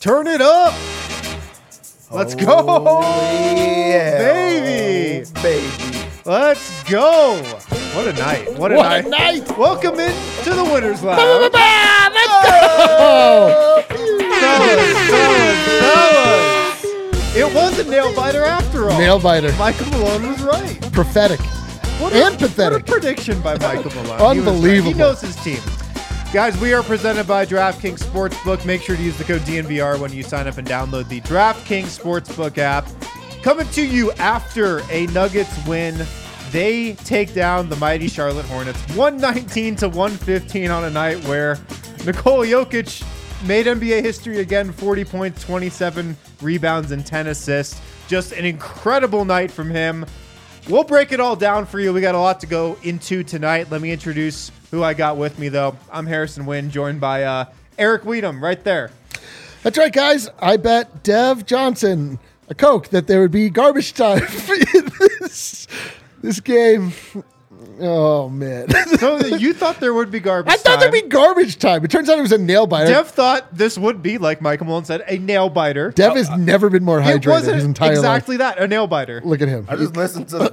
Turn it up. Let's go. Yeah. Baby. Oh, baby. Let's go. What a night. What a night. Welcome in to the Winners Lounge. Let's go. Fellas. It was a nail biter after all. Nail biter. Michael Malone was right. Prophetic. Pathetic. What a prediction by Michael Malone. Unbelievable. He knows his team. Guys, we are presented by DraftKings Sportsbook. Make sure to use the code DNVR when you sign up and download the DraftKings Sportsbook app. Coming to you after a Nuggets win. They take down the mighty Charlotte Hornets 119-115 on a night where Nikola Jokic made NBA history again, 40 points, 27 rebounds, and 10 assists. Just an incredible night from him. We'll break it all down for you. We got a lot to go into tonight. Let me introduce who I got with me, though. I'm Harrison Wynn, joined by Eric Weedham right there. That's right, guys. I bet Dev Johnson a Coke that there would be garbage time in this game. Oh, man. So you thought there would be garbage time. I thought there'd be garbage time. It turns out it was a nail biter. Dev thought this would be, like Michael Malone said, a nail biter. Dev has never been more It hydrated wasn't his entire exactly life. that, a nail biter. Look at him. I just listened to the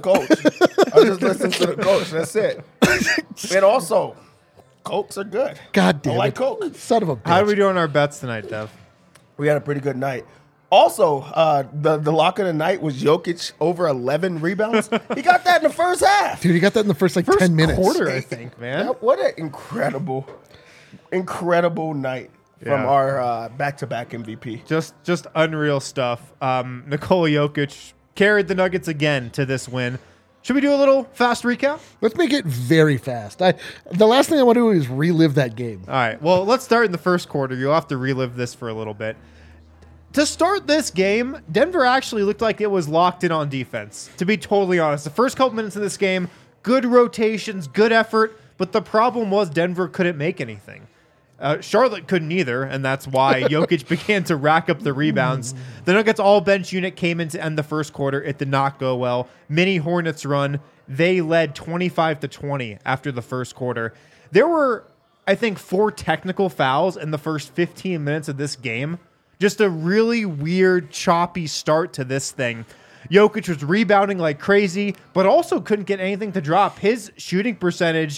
coach. That's it. And also, Cokes are good. God damn I like it. Coke. Son of a bitch. How are we doing our bets tonight, Dev? We had a pretty good night. Also, the lock of the night was Jokic over 11 rebounds. He got that in the first half. Dude, he got that in the first 10 minutes. Quarter, I think, man. What an incredible night from Yeah. our back-to-back MVP. Just unreal stuff. Nikola Jokic carried the Nuggets again to this win. Should we do a little fast recap? Let's make it very fast. The last thing I want to do is relive that game. All right. Well, let's start in the first quarter. You'll have to relive this for a little bit. To start this game, Denver actually looked like it was locked in on defense, to be totally honest. The first couple minutes of this game, good rotations, good effort, but the problem was Denver couldn't make anything. Charlotte couldn't either, and that's why Jokic began to rack up the rebounds. The Nuggets all-bench unit came in to end the first quarter. It did not go well. Mini Hornets run. They led 25-20 after the first quarter. There were, I think, 4 technical fouls in the first 15 minutes of this game. Just a really weird, choppy start to this thing. Jokic was rebounding like crazy, but also couldn't get anything to drop. His shooting percentage,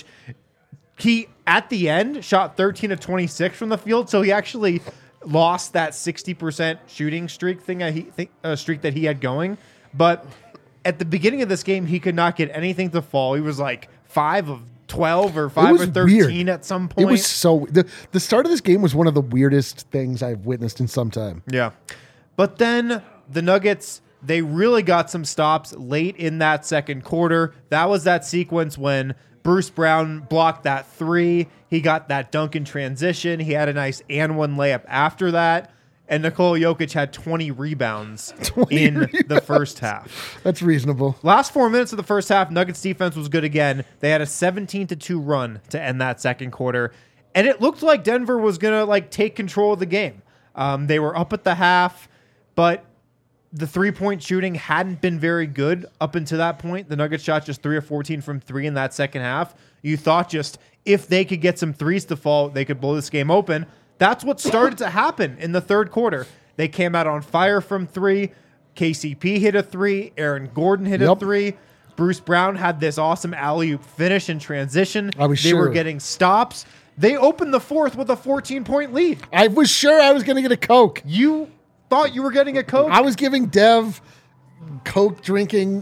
he, at the end, shot 13 of 26 from the field, so he actually lost that 60% shooting streak streak that he had going. But at the beginning of this game, he could not get anything to fall. He was like 5 of 12 or 5 or 13 weird. at some point. It was so... The start of this game was one of the weirdest things I've witnessed in some time. Yeah. But then the Nuggets, they really got some stops late in that second quarter. That was that sequence when Bruce Brown blocked that 3. He got that dunk in transition. He had a nice and one layup after that. And Nikola Jokic had 20 rebounds the first half. That's reasonable. Last 4 minutes of the first half, Nuggets defense was good again. They had a 17-2 run to end that second quarter. And it looked like Denver was going to take control of the game. They were up at the half, but the three-point shooting hadn't been very good up until that point. The Nuggets shot just 3 of 14 from 3 in that second half. You thought just if they could get some threes to fall, they could blow this game open. That's what started to happen in the third quarter. They came out on fire from 3. KCP hit a 3. Aaron Gordon hit a 3. Bruce Brown had this awesome alley-oop finish in transition. They were getting stops. They opened the fourth with a 14-point lead. I was sure I was going to get a Coke. You thought you were getting a Coke? I was giving Dev Coke drinking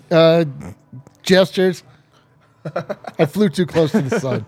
gestures. I flew too close to the sun.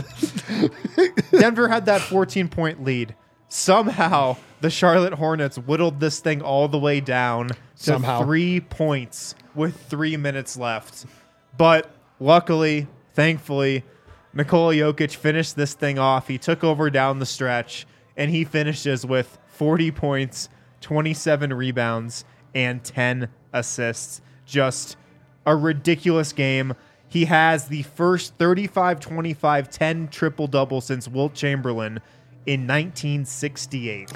Denver had that 14-point lead. Somehow, the Charlotte Hornets whittled this thing all the way down to 3 points with 3 minutes left. But luckily, thankfully, Nikola Jokic finished this thing off. He took over down the stretch, and he finishes with 40 points, 27 rebounds, and 10 assists. Just a ridiculous game. He has the first 35-25-10 triple-double since Wilt Chamberlain in 1968.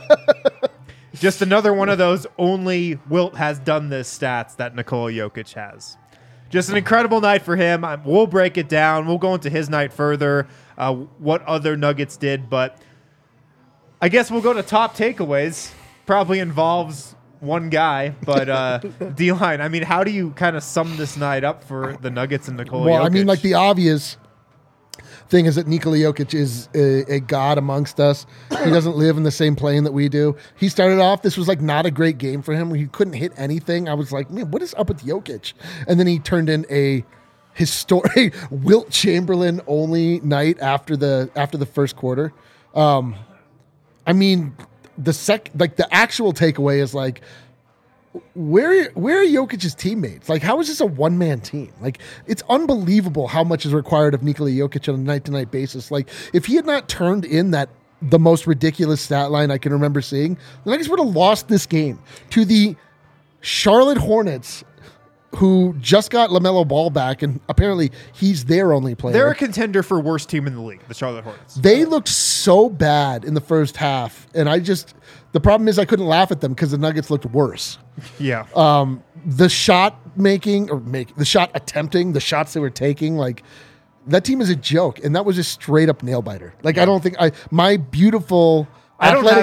Just another one of those only Wilt has done this stats that Nikola Jokic has. Just an incredible night for him. We'll break it down. We'll go into his night further, what other Nuggets did. But I guess we'll go to top takeaways. probably involves one guy, but D-line, I mean, how do you kind of sum this night up for the Nuggets and Nikola Jokic? Well, I mean, like the obvious thing is that Nikola Jokic is a god amongst us. He doesn't live in the same plane that we do. He started off, this was like not a great game for him. He couldn't hit anything. I was like, man, what is up with Jokic? And then he turned in a historic Wilt Chamberlain only night after the first quarter. I mean, the actual takeaway is like, where are Jokic's teammates? Like, how is this a one-man team? Like, it's unbelievable how much is required of Nikola Jokic on a night-to-night basis. Like, if he had not turned in the most ridiculous stat line I can remember seeing, the Nuggets would have lost this game to the Charlotte Hornets, who just got LaMelo Ball back, and apparently he's their only player. They're a contender for worst team in the league, the Charlotte Hornets. They looked so bad in the first half, and the problem is I couldn't laugh at them because the Nuggets looked worse. Yeah. The shot the shot attempting, the shots they were taking, like that team is a joke, and that was just straight up nail biter. Like I don't think my beautiful athletic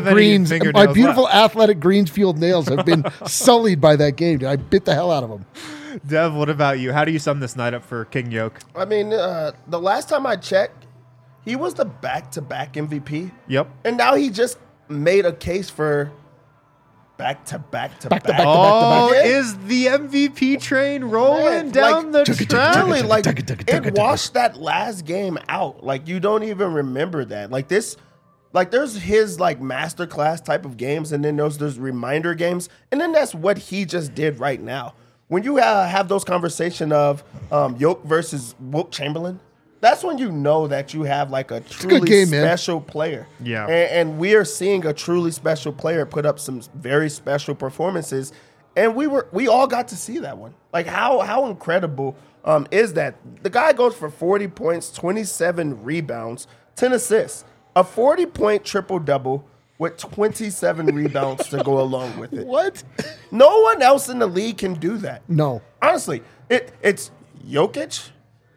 greens nails have been sullied by that game. I bit the hell out of them. Dev, what about you? How do you sum this night up for King Yoke? I mean, the last time I checked, he was the back-to-back MVP. Yep. And now he just made a case for back-to-back. Oh, is the MVP train rolling down the track? Really, like, it washed that last game out. Like, you don't even remember that. Like, this... Like, there's his, like, masterclass type of games, and then there's reminder games, and then that's what he just did right now. When you have those conversation of Yoke versus Wilt Chamberlain, that's when you know that you have, like, a truly special player. Yeah. And we are seeing a truly special player put up some very special performances, and we all got to see that one. Like, how incredible is that? The guy goes for 40 points, 27 rebounds, 10 assists. A 40-point triple-double with 27 rebounds to go along with it. What? No one else in the league can do that. No. Honestly, it's Jokic,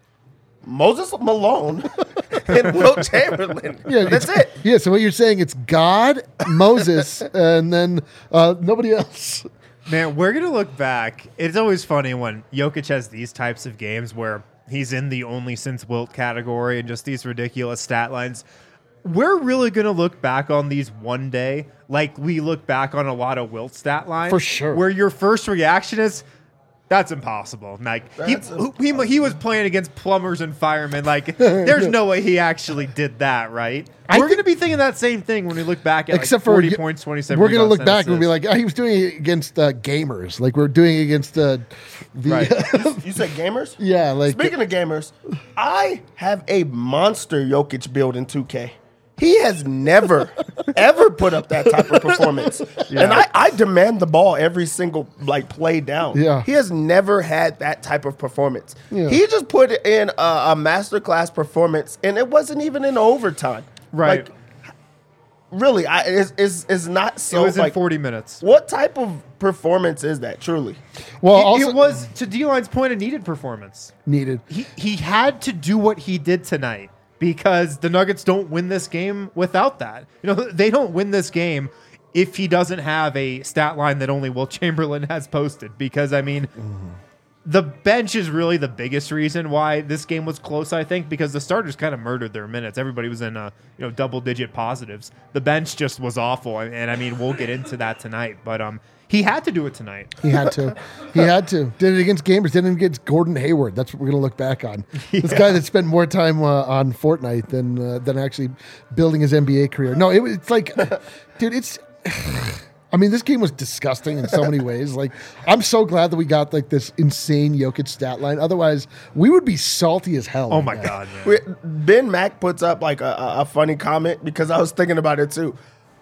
Moses Malone, and Wilt Chamberlain. Yeah, that's it. Yeah, so what you're saying, it's God, Moses, and then nobody else. Man, we're going to look back. It's always funny when Jokic has these types of games where he's in the only since Wilt category and just these ridiculous stat lines. We're really going to look back on these one day like we look back on a lot of Wilt stat lines. For sure. Where your first reaction is, that's impossible. Like, he was playing against plumbers and firemen. Like, there's no way he actually did that, right? We're going to be thinking that same thing when we look back at except like 40 for points, 27 We're going to look back and be like, he was doing it against gamers. Like, we're doing it against the... Right. You said gamers? Yeah. Like, speaking of gamers, I have a monster Jokic build in 2K. He has never, ever put up that type of performance. Yeah. And I demand the ball every single play down. Yeah. He has never had that type of performance. Yeah. He just put in a masterclass performance, and it wasn't even in overtime. Right. Like, really, it's not so. It was in 40 minutes. What type of performance is that, truly? Well, it was, to D-Line's point, a needed performance. Needed. He had to do what he did tonight. Because the Nuggets don't win this game without that. You know, they don't win this game if he doesn't have a stat line that only Wilt Chamberlain has posted. Because, I mean, the bench is really the biggest reason why this game was close, I think, because the starters kind of murdered their minutes. Everybody was in double-digit positives. The bench just was awful. And I mean, we'll get into that tonight. But he had to do it tonight. He had to. He had to. Did it against gamers. Did it against Gordon Hayward. That's what we're going to look back on. Yeah. This guy that spent more time on Fortnite than actually building his NBA career. No, it's like, dude, it's... I mean, this game was disgusting in so many ways. Like, I'm so glad that we got like this insane Jokic stat line. Otherwise, we would be salty as hell. Oh my God, man. Ben Mack puts up like a funny comment because I was thinking about it too.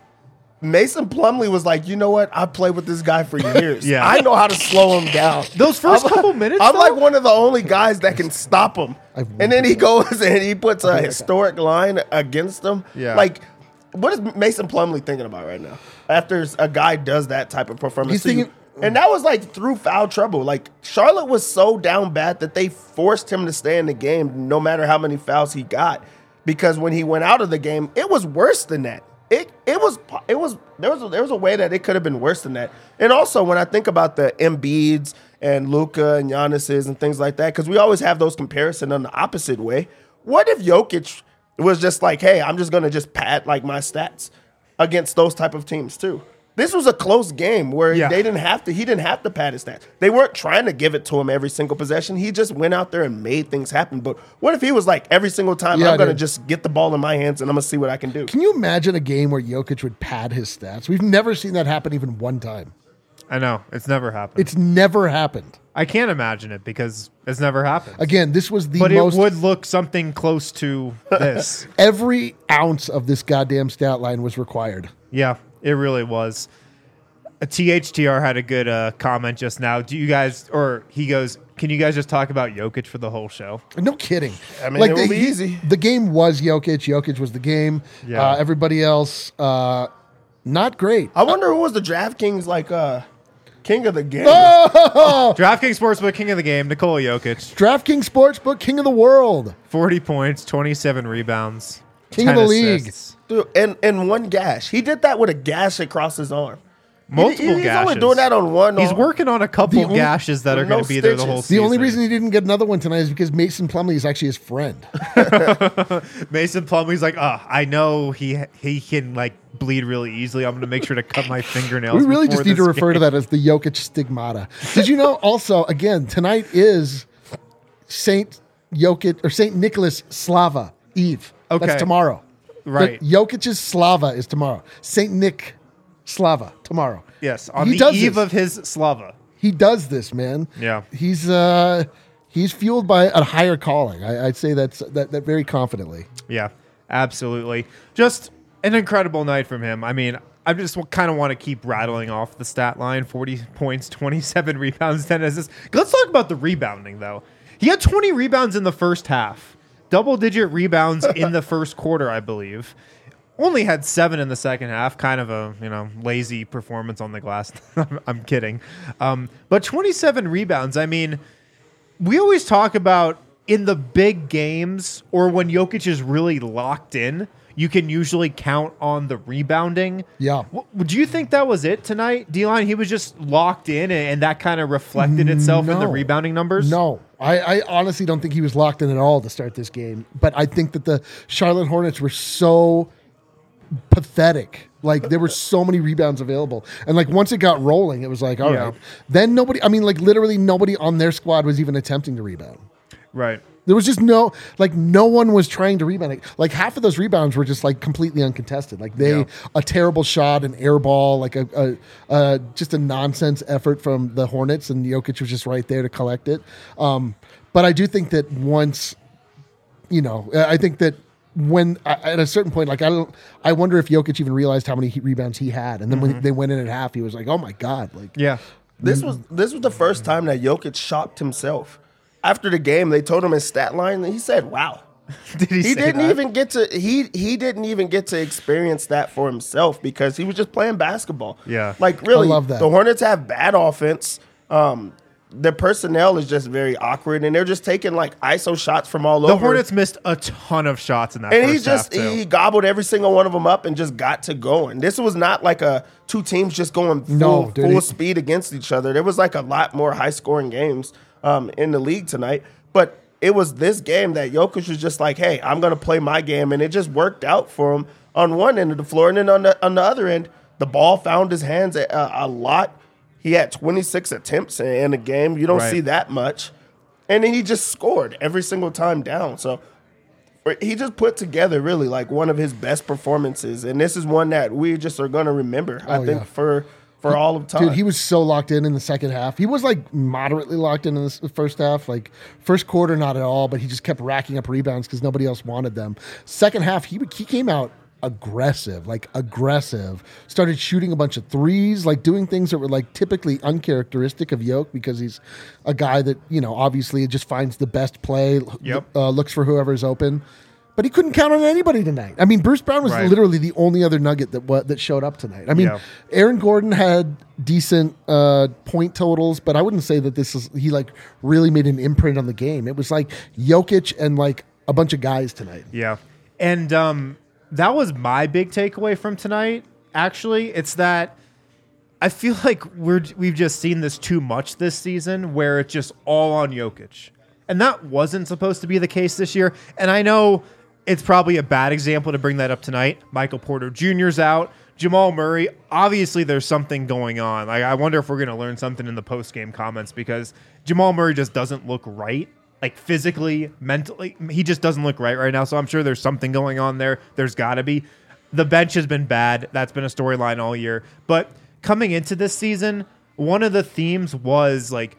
Mason Plumlee was like, you know what? I've played with this guy for years. Yeah. I know how to slow him down. Those first couple minutes, I'm like one of the only guys that can stop him. And then he goes and he puts a historic line against him. Yeah. Like, what is Mason Plumlee thinking about right now? After a guy does that type of performance. He's thinking, and that was like through foul trouble. Like, Charlotte was so down bad that they forced him to stay in the game no matter how many fouls he got. Because when he went out of the game, it was worse than that. there was a way that it could have been worse than that. And also when I think about the Embiids and Luka and Giannis's and things like that, because we always have those comparisons on the opposite way. What if Jokic was just like, hey, I'm just gonna just pad like my stats against those type of teams too? This was a close game where he didn't have to pad his stats. They weren't trying to give it to him every single possession. He just went out there and made things happen. But what if he was like, every single time I'm going to just get the ball in my hands and I'm going to see what I can do? Can you imagine a game where Jokic would pad his stats? We've never seen that happen even one time. I know. It's never happened. It's never happened. I can't imagine it because it's never happened. Again, this was the but most... it would look something close to this. Every ounce of this goddamn stat line was required. Yeah, it really was. A THTR had a good comment just now. Do you guys, or he goes, can you guys just talk about Jokic for the whole show? No kidding. I mean, it will be easy. The game was Jokic. Jokic was the game. Yeah. Everybody else, not great. I wonder who was the DraftKings king of the game. Oh! DraftKings Sportsbook King of the Game, Nikola Jokic. DraftKings Sportsbook King of the World. 40 points, 27 rebounds. King of the league. Assists. Dude, and one gash. He did that with a gash across his arm. Multiple He's gashes. only doing that on one. He's working on a couple gashes that are no going to be there the whole stitches. season. The only reason he didn't get another one tonight is because Mason Plumlee is actually his friend. Mason Plumlee's like, I know he can like bleed really easily. I'm going to make sure to cut my fingernails. We really just need to refer to game. that as the Jokic stigmata. Did you know also, again, tonight is Saint Nicholas Slava Eve. Okay. That's tomorrow. Right. But Jokic's Slava is tomorrow. Saint Nick Slava tomorrow. Yes, on He the does eve this. of his Slava. He does this, man. Yeah. He's fueled by a higher calling. I'd say that very confidently. Yeah, absolutely. Just an incredible night from him. I mean, I just kind of want to keep rattling off the stat line: 40 points, 27 rebounds, 10 assists. Let's talk about the rebounding, though. He had 20 rebounds in the first half, double-digit rebounds in the first quarter, I believe. Only had 7 in the second half. Kind of a lazy performance on the glass. I'm kidding. But 27 rebounds. I mean, we always talk about in the big games or when Jokic is really locked in, you can usually count on the rebounding. Yeah. Would you think that was it tonight, D-Line? He was just locked in and that kind of reflected itself in the rebounding numbers? No. I honestly don't think he was locked in at all to start this game. But I think that the Charlotte Hornets were so pathetic. Like there were so many rebounds available. And like once it got rolling, it was like, all right. Then literally nobody on their squad was even attempting to rebound. Right. There was just no one was trying to rebound. Like half of those rebounds were just like completely uncontested. Like a terrible shot, an air ball, like just a nonsense effort from the Hornets, and Jokic was just right there to collect it. But I do think that once, I think that when at a certain point, like I wonder if Jokic even realized how many rebounds he had, and then when they went in at half, he was like, "Oh my god!" Like, this was the first time that Jokic shocked himself. After the game, they told him his stat line, and he said, "Wow." Did he didn't even get to he didn't even get to experience that for himself because he was just playing basketball. Yeah, like really, I love that. The Hornets have bad offense. Their personnel is just very awkward, and they're just taking like ISO shots from all over. The Hornets missed a ton of shots in that and first half, too. he gobbled every single one of them up and just got to going. This was not like two teams just going full speed against each other. There was like a lot more high scoring games in the league tonight, but it was this game that Jokic was just like, hey, I'm going to play my game, and it just worked out for him on one end of the floor, and then on the other end, the ball found his hands a lot. He had 26 attempts in a game. You don't see that much. And then he just scored every single time down. So he just put together really like one of his best performances. And this is one that we just are going to remember, I think, for all of time. Dude, he was so locked in the second half. He was like moderately locked in the first half. Like first quarter, not at all, but he just kept racking up rebounds because nobody else wanted them. Second half, he came out aggressive, started shooting a bunch of threes, like doing things that were like typically uncharacteristic of Jokic because he's a guy that, obviously just finds the best play, looks for whoever's open. But he couldn't count on anybody tonight. I mean, Bruce Brown was literally the only other nugget that showed up tonight. I mean, Aaron Gordon had decent point totals, but I wouldn't say that he like really made an imprint on the game. It was like Jokic and like a bunch of guys tonight. Yeah. And that was my big takeaway from tonight. Actually, it's that I feel like we've just seen this too much this season, where it's just all on Jokic, and that wasn't supposed to be the case this year. And I know it's probably a bad example to bring that up tonight. Michael Porter Jr.'s out. Jamal Murray, obviously there's something going on. Like, I wonder if we're going to learn something in the post-game comments, because Jamal Murray just doesn't look right. Like, physically, mentally, he just doesn't look right now. So I'm sure there's something going on there. There's got to be. The bench has been bad. That's been a storyline all year. But coming into this season, one of the themes was, like,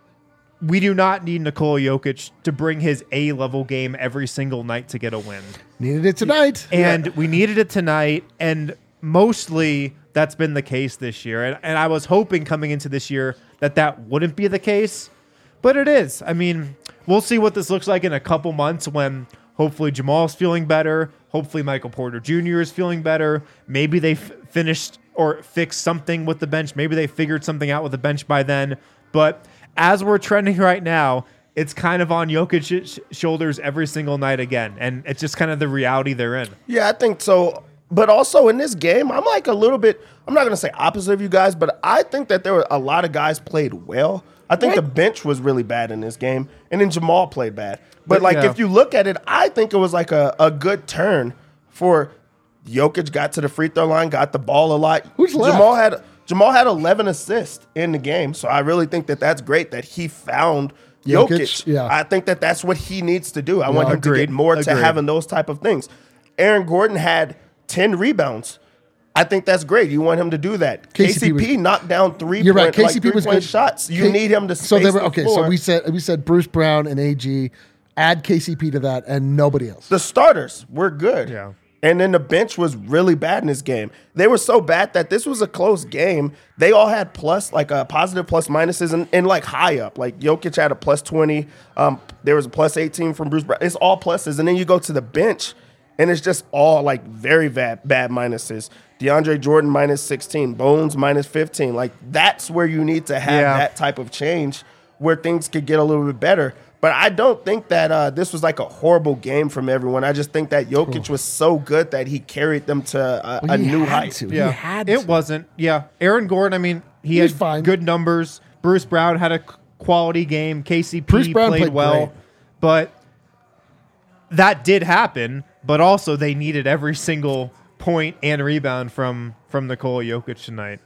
we do not need Nikola Jokic to bring his A-level game every single night to get a win. Needed it tonight. And we needed it tonight, and mostly that's been the case this year. And I was hoping coming into this year that wouldn't be the case, but it is. I mean, we'll see what this looks like in a couple months when hopefully Jamal's feeling better. Hopefully Michael Porter Jr. is feeling better. Maybe they finished or fixed something with the bench. Maybe they figured something out with the bench by then. But as we're trending right now, it's kind of on Jokic's shoulders every single night again. And it's just kind of the reality they're in. Yeah, I think so. But also in this game, I'm like a little bit, I'm not going to say opposite of you guys, but I think that there were a lot of guys played well. I think the bench was really bad in this game, and then Jamal played bad. But like, if you look at it, I think it was like a good turn for Jokic. Got to the free throw line, got the ball a lot. Who's left? Jamal had 11 assists in the game, so I really think that that's great that he found Jokic. Yeah. I think that that's what he needs to do. I want him to get more to having those type of things. Aaron Gordon had 10 rebounds. I think that's great. You want him to do that. KCP knocked down You're right. KCP was good shots. You need him to space the floor. So we said Bruce Brown and AG, add KCP to that, and nobody else. The starters were good. Yeah. And then the bench was really bad in this game. They were so bad that this was a close game. They all had positive plus minuses and like high up. Like Jokic had a plus 20. There was a plus 18 from Bruce Brown. It's all pluses. And then you go to the bench, and it's just all like very bad minuses. DeAndre Jordan minus 16, Bones minus 15. Like, that's where you need to have that type of change where things could get a little bit better. But I don't think that this was like a horrible game from everyone. I just think that Jokic was so good that he carried them to a new height. Yeah, it wasn't. Yeah, Aaron Gordon, I mean, he had fine. Good numbers. Bruce Brown had a quality game. KCP Bruce Brown played well. great. But that did happen. But also they needed every single point and rebound from Nikola Jokic tonight.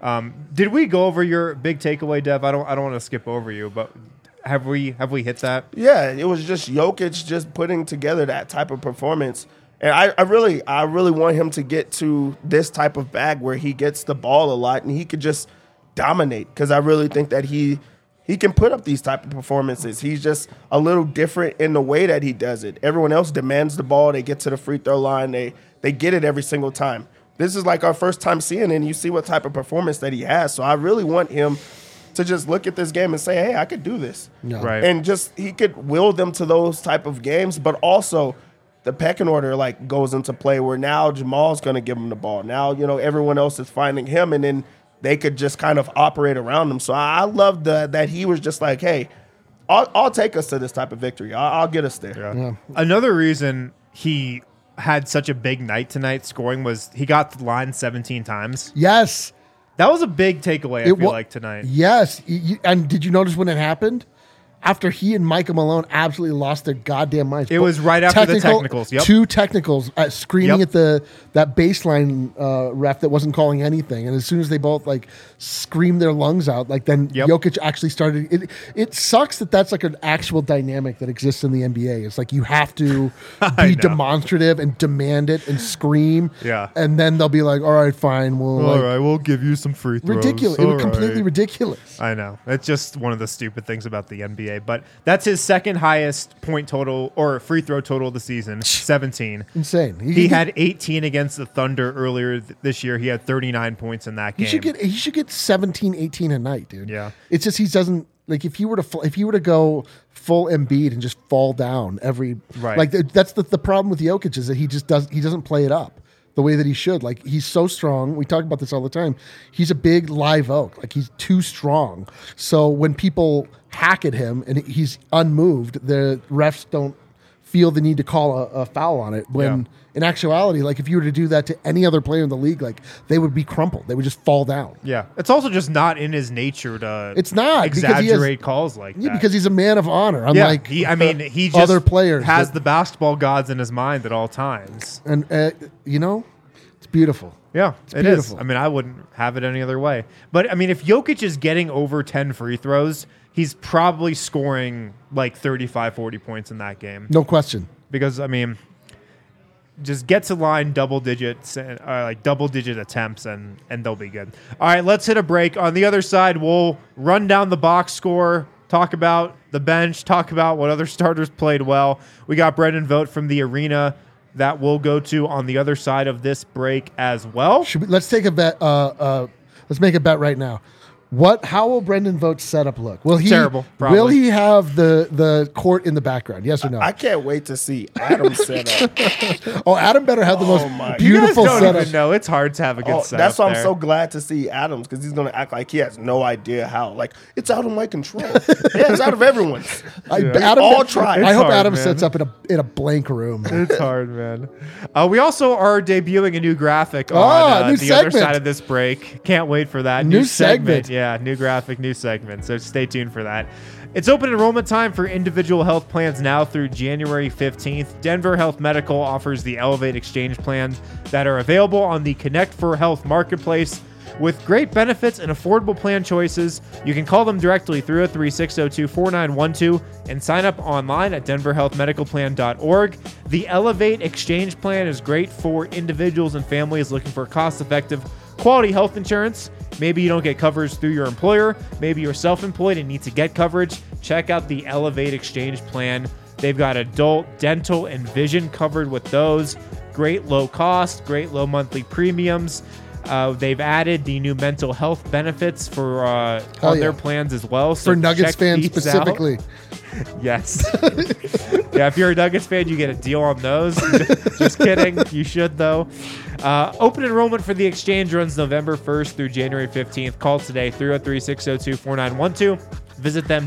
Did we go over your big takeaway, Dev? I don't want to skip over you, but have we hit that? Yeah, it was just Jokic just putting together that type of performance. And I really want him to get to this type of bag where he gets the ball a lot and he could just dominate, because I really think that he can put up these type of performances. He's just a little different in the way that he does it. Everyone else demands the ball. They get to the free throw line. They get it every single time. This is like our first time seeing it, and you see what type of performance that he has. So I really want him to just look at this game and say, hey, I could do this. No. Right. And just he could will them to those type of games, but also the pecking order like goes into play where now Jamal's going to give him the ball. Now, everyone else is finding him, and then they could just kind of operate around him. So I love that he was just like, hey, I'll take us to this type of victory. I'll get us there. Yeah. Another reason he had such a big night tonight scoring was he got to the line 17 times. Yes. That was a big takeaway, I feel like, tonight. Yes. And did you notice when it happened? After he and Micah Malone absolutely lost their goddamn minds. It was right after the technicals. Yep. 2 technicals, screaming at that baseline ref that wasn't calling anything. And as soon as they both screamed their lungs out, then Jokic actually started. It sucks that that's like an actual dynamic that exists in the NBA. It's like you have to be demonstrative and demand it and scream. Yeah. And then they'll be like, all right, fine. We'll give you some free throws. Ridiculous. It was completely ridiculous. I know. It's just one of the stupid things about the NBA. But that's his second highest point total or free throw total of the season, 17. Insane. He had 18 against the Thunder earlier this year. He had 39 points in that game. He should get 17, 18 a night, dude. Yeah. It's just he doesn't if he were to go full Embiid and just fall down every that's the problem with Jokic is that he doesn't play it up the way that he should. He's so strong. We talk about this all the time. He's a big live oak. He's too strong. So when people hack at him and he's unmoved, the refs don't feel the need to call a foul on it. When in actuality, like if you were to do that to any other player in the league, like they would be crumpled. They would just fall down. Yeah. It's also just not in his nature to It's not because he has- exaggerate calls like Yeah, that. because he's a man of honor. yeah, Unlike he just other players has that- the basketball gods in his mind at all times. and it's beautiful. Yeah, it is. beautiful. I mean, I wouldn't have it any other way. But, I mean, if Jokic is getting over 10 free throws, he's probably scoring like 35, 40 points in that game. No question. Because, I mean, just get to line double digits, like double-digit attempts, and they'll be good. All right, let's hit a break. On the other side, we'll run down the box score, talk about the bench, talk about what other starters played well. We got Brendan Vogt from the Arena that we'll go to on the other side of this break as well. Let's take a bet. Let's make a bet right now. How will Brendan Vogt's setup look? Will he Terrible, probably. Will he have the court in the background? Yes or no? I can't wait to see Adam's setup. Oh, Adam better have the most my- You guys beautiful don't setup. even know. It's hard to have a good setup. That's why I'm there. so glad to see Adams, because he's going to act like he has no idea how. Like, it's out of my control. Yeah, it's out of everyone's. Adam, all tried. I It's hope hard, Adam man. sets up in a blank room. It's hard, man. We also are debuting a new graphic on new the other segment. side of this break. Can't wait for that. New segment. Yeah, new graphic, new segment. So stay tuned for that. It's open enrollment time for individual health plans now through January 15th. Denver Health Medical offers the Elevate Exchange plans that are available on the Connect for Health marketplace. With great benefits and affordable plan choices, you can call them directly 303-602-4912 and sign up online at denverhealthmedicalplan.org. The Elevate Exchange plan is great for individuals and families looking for cost-effective, quality health insurance. Maybe you don't get coverage through your employer. Maybe you're self-employed and need to get coverage. Check out the Elevate Exchange plan. They've got adult, dental, and vision covered with those. Great low cost, great low monthly premiums. They've added the new mental health benefits for on their plans as well. So For Nuggets check fans these specifically. out. Yes. Yeah, if you're a Nuggets fan, you get a deal on those. Just kidding. You should, though. Open enrollment for the exchange runs November 1st through January 15th. Call today, 303-602-4912. Visit them,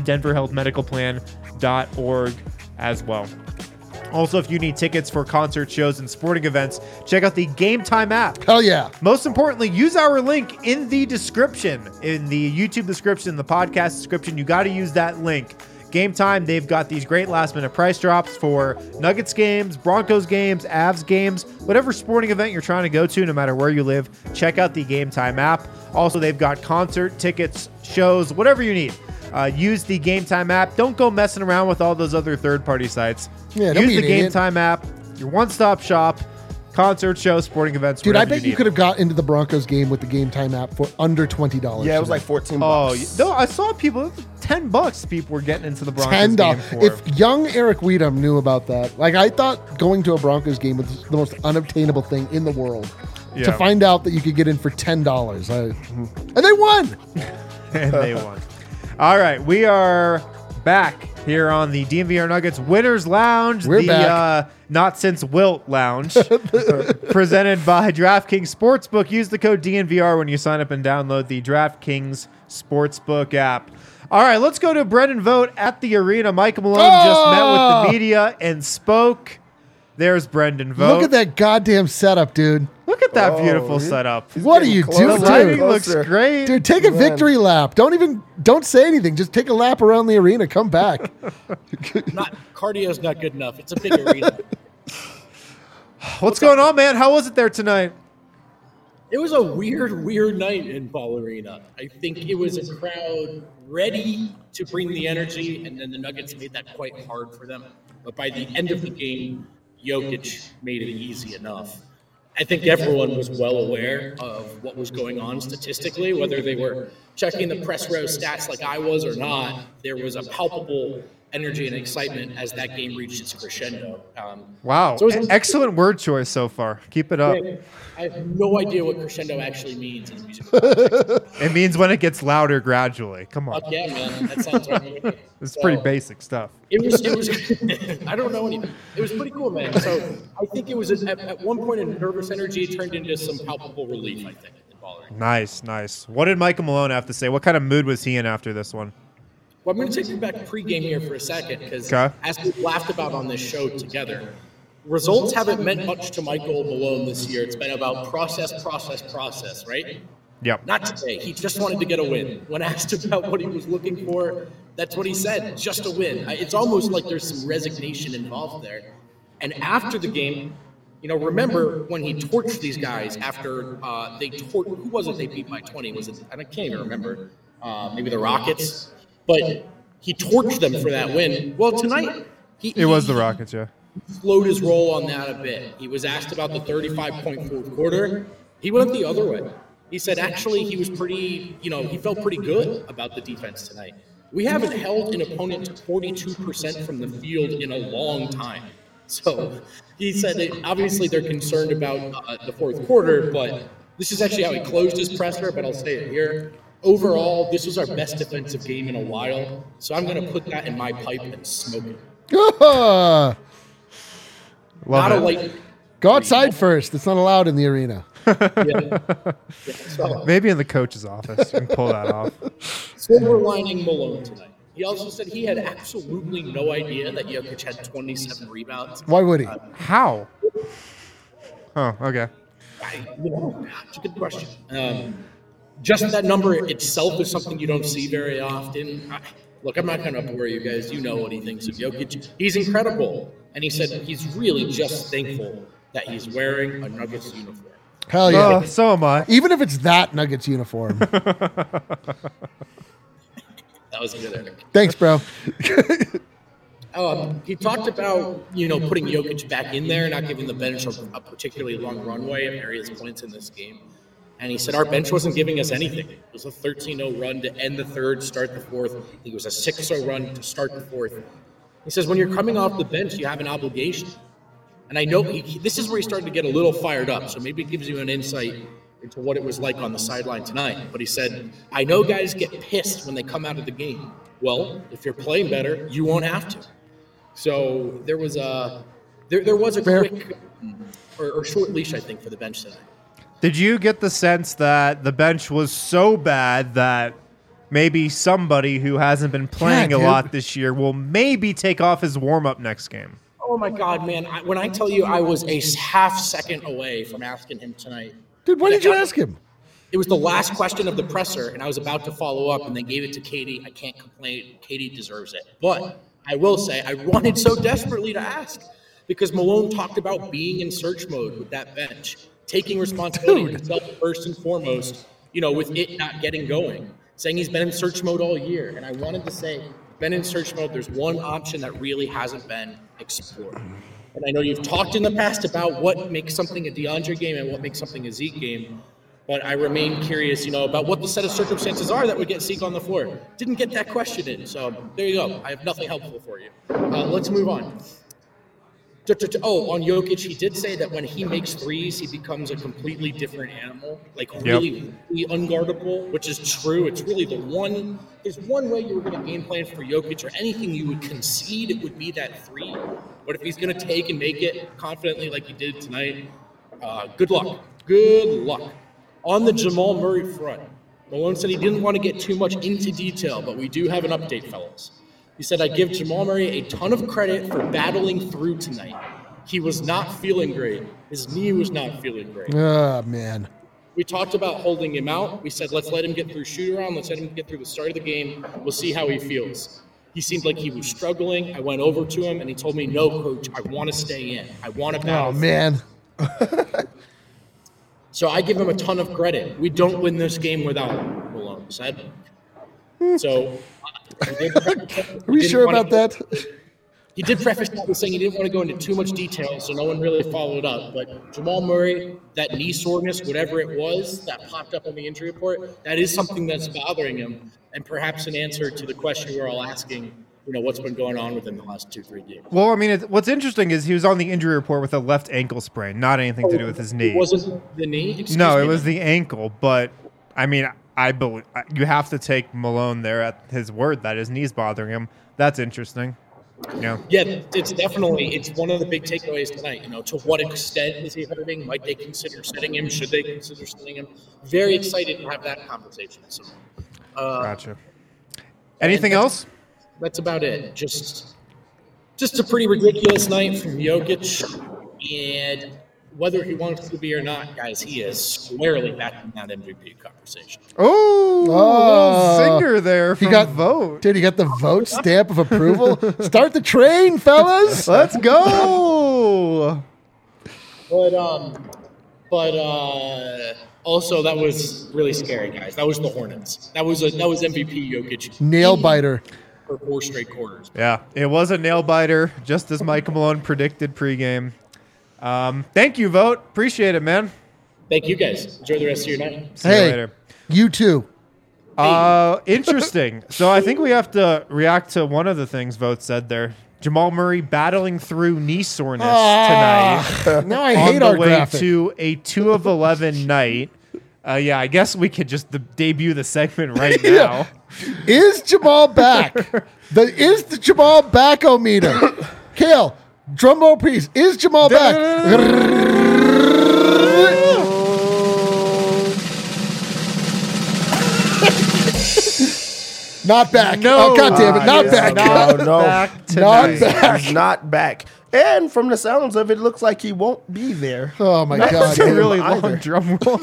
denverhealthmedicalplan.org as well. Also, if you need tickets for concert shows and sporting events, check out the Game Time app. Hell yeah. Most importantly, use our link in the description, in the YouTube description, the podcast description. You got to use that link. Game Time, they've got these great last-minute price drops for Nuggets games, Broncos games, Avs games, whatever sporting event you're trying to go to, no matter where you live, check out the Game Time app. Also, they've got concert tickets, shows, whatever you need. Use the Game Time app. Don't go messing around with all those other third-party sites. Yeah, don't use be the an Game idiot. Time app, your one-stop shop, concert shows, sporting events. Dude, I whatever bet you need. could have got into the Broncos game with the Game Time app for under $20. Yeah, it was today. like 14 Oh, bucks. no, I saw people, $10 people were getting into the Broncos $10. game for. If young Eric Weedham knew about that, like I thought going to a Broncos game was the most unobtainable thing in the world. Yeah. To find out that you could get in for $10. And they won. And they won. All right, we are back here on the DNVR Nuggets Winners Lounge, We're the back. Not Since Wilt Lounge, presented by DraftKings Sportsbook. Use the code DNVR when you sign up and download the DraftKings Sportsbook app. All right, let's go to Brendan Vogt at the Arena. Michael Malone just met with the media and spoke. There's Brendan Vogt. Look at that goddamn setup, dude. Look at that Oh, beautiful yeah. setup. What are you Getting The doing, closer. lighting dude? looks Closer. great. Dude, take a Man. victory lap. Don't say anything. Just take a lap around the arena. Come back. Cardio's not good enough. It's a big arena. What's going on, man? How was it there tonight? It was a weird night in Ball Arena. I think it was a crowd ready to bring the energy, and then the Nuggets made that quite hard for them. But by the end of the game, Jokic made it easy enough. I think everyone was well aware of what was going on statistically, whether they were checking the press row stats like I was or not. There was a palpable energy and excitement as that game reached its crescendo. Wow. So it was- Excellent word choice so far. Keep it up. I have no idea what crescendo actually means in music. It means when it gets louder gradually. Come on. Fuck yeah, man. That sounds right. It's So, pretty basic stuff. It was, I don't know anything. It was pretty cool, man. So I think it was at one point a nervous energy turned into some palpable relief, I think, in Ball Arena. Nice, nice. What did Michael Malone have to say? What kind of mood was he in after this one? Well, I'm going to take you back pregame here for a second because as we laughed about on this show together, results haven't meant much to Michael Malone this year. It's been about process, right? Yep. Not today. He just wanted to get a win. When asked about what he was looking for, that's what he said, just a win. It's almost like there's some resignation involved there. And after the game, remember when he torched these guys after who was it they beat by 20? Was it, I can't even remember, maybe the Rockets? But he torched them for that win. Well, tonight, it was the Rockets, yeah. Slowed his roll on that a bit. He was asked about the 35-point fourth quarter. He went the other way. He said actually he was pretty, he felt pretty good about the defense tonight. We haven't held an opponent to 42% from the field in a long time. So he said that obviously they're concerned about the fourth quarter, but this is actually how he closed his presser, but I'll say it here. Overall, this was our best defensive game in a while, so I'm going to put that in my pipe and smoke it. Not a light. Go outside first. It's not allowed in the arena. So, maybe in the coach's office. You can pull that off. Silver lining Malone tonight. He also said he had absolutely no idea that Jokic had 27 rebounds. Why would he? How? Oh, okay. It's a good question. Just that number itself is something you don't see very often. Look, I'm not going to bore you guys. You know what he thinks of Jokic. He's incredible. And he said he's really just thankful that he's wearing a Nuggets uniform. Hell yeah. So am I. Even if it's that Nuggets uniform. That was good, Eric. Thanks, bro. He talked about, putting Jokic back in there, not giving the bench a particularly long runway at various points in this game. And he said our bench wasn't giving us anything. It was a 13-0 run to end the third, start the fourth. I think it was a 6-0 run to start the fourth. He says when you're coming off the bench, you have an obligation. And I know this is where he started to get a little fired up, so maybe it gives you an insight into what it was like on the sideline tonight. But he said, I know guys get pissed when they come out of the game. Well, if you're playing better, you won't have to. So there was a quick or short leash, I think, for the bench tonight. Did you get the sense that the bench was so bad that maybe somebody who hasn't been playing a lot this year will maybe take off his warm-up next game? Oh, my God, man. When I tell you I was a half second away from asking him tonight. Dude, why did you ask him? It was the last question of the presser, and I was about to follow up, and they gave it to Katie. I can't complain. Katie deserves it. But I will say I wanted so desperately to ask because Malone talked about being in search mode with that bench, taking responsibility himself first and foremost, with it not getting going, saying he's been in search mode all year. And I wanted to say, been in search mode, there's one option that really hasn't been explored. And I know you've talked in the past about what makes something a DeAndre game and what makes something a Zeke game, but I remain curious, about what the set of circumstances are that would get Zeke on the floor. Didn't get that question in, so there you go. I have nothing helpful for you. Let's move on. On Jokic, he did say that when he makes threes, he becomes a completely different animal, really unguardable, which is true. It's really there's one way you were going to game plan for Jokic or anything you would concede, it would be that three. But if he's going to take and make it confidently like he did tonight, good luck. Good luck. On the Jamal Murray front, Malone said he didn't want to get too much into detail, but we do have an update, fellas. He said, I give Jamal Murray a ton of credit for battling through tonight. He was not feeling great. His knee was not feeling great. Oh, man. We talked about holding him out. We said, let's let him get through shoot-around. Let's let him get through the start of the game. We'll see how he feels. He seemed like he was struggling. I went over to him, and he told me, no, coach, I want to stay in. I want to battle. Oh, man. So I give him a ton of credit. We don't win this game without him, Malone said. So are we sure about that? He did preface that with saying he didn't want to go into too much detail, so no one really followed up. But Jamal Murray, that knee soreness, whatever it was that popped up on the injury report, that is something that's bothering him, and perhaps an answer to the question we're all asking, what's been going on with him the last 2-3 games. Well, I mean, what's interesting is he was on the injury report with a left ankle sprain, not anything to do with his knee. It wasn't the knee? No, it was the ankle, but, I mean, I believe you have to take Malone there at his word that his knee's bothering him. That's interesting. Yeah, it's one of the big takeaways tonight. To what extent is he hurting? Might they consider sitting him? Should they consider sitting him? Very excited to have that conversation. So, gotcha. Anything else? That's about it. Just a pretty ridiculous night from Jokic, and whether he wants to be or not, guys, he is squarely back in that MVP conversation. Oh, little zinger there from Vote. Dude, you got the Vote stamp of approval. Start the train, fellas. Let's go. But also that was really scary, guys. That was the Hornets. That was MVP Jokic. Nail biter. For 4 straight quarters. Yeah, it was a nail biter, just as Michael Malone predicted pregame. Thank you, Vote. Appreciate it, man. Thank you, guys. Enjoy the rest of your night. See you later. You too. Interesting. So I think we have to react to one of the things Vote said there. Jamal Murray battling through knee soreness tonight. Now I hate on our the way graphic. to a 2 of 11 night. Yeah, I guess we could just debut the segment right now. Is Jamal back? Is the Jamal back-o-meter? Kale, drum roll please. Is Jamal back? Not back. No. Oh, God damn it. Not He is back. not No. back Not tonight. back. He's not back. And from the sounds of it, looks like he won't be there. Oh, my God. That's a really Either. long drum roll.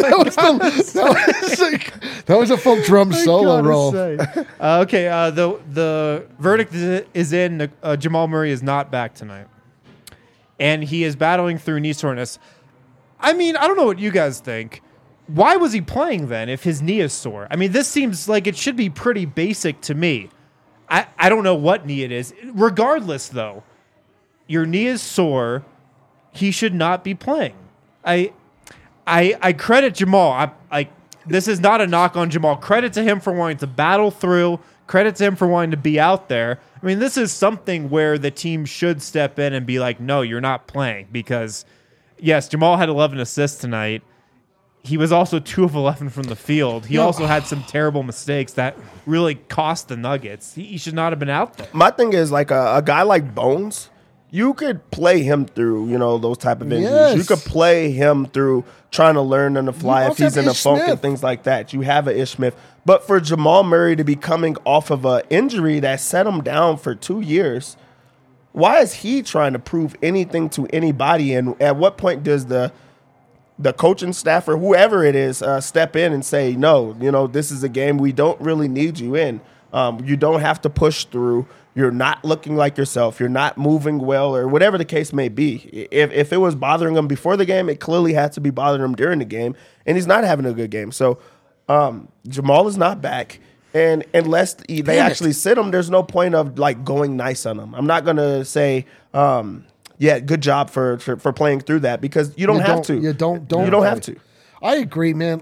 That was a full drum solo gotta roll. say. Okay, the verdict is in. Jamal Murray is not back tonight, and he is battling through knee soreness. I mean, I don't know what you guys think. Why was he playing then if his knee is sore? I mean, this seems like it should be pretty basic to me. I don't know what knee it is. Regardless, though, your knee is sore. He should not be playing. I credit Jamal. This is not a knock on Jamal. Credit to him for wanting to battle through. Credit to him for wanting to be out there. I mean, this is something where the team should step in and be like, no, you're not playing. Because, yes, Jamal had 11 assists tonight. He was also 2 of 11 from the field. He also had some terrible mistakes that really cost the Nuggets. He should not have been out there. My thing is, like, a guy like Bones, you could play him through, those type of injuries. Yes. You could play him through trying to learn on the fly You if also he's have in a Ish funk Smith. and things like that. You have an Ish Smith. But for Jamal Murray to be coming off of an injury that set him down for 2 years, why is he trying to prove anything to anybody? And at what point does the coaching staff or whoever it is step in and say, no, this is a game we don't really need you in. You don't have to push through. You're not looking like yourself. You're not moving well, or whatever the case may be. If it was bothering him before the game, it clearly had to be bothering him during the game, and he's not having a good game. So Jamal is not back, and unless they actually sit him, there's no point of like going nice on him. I'm not gonna say, yeah, good job for playing through that, because you don't have to. You don't have to. I agree, man.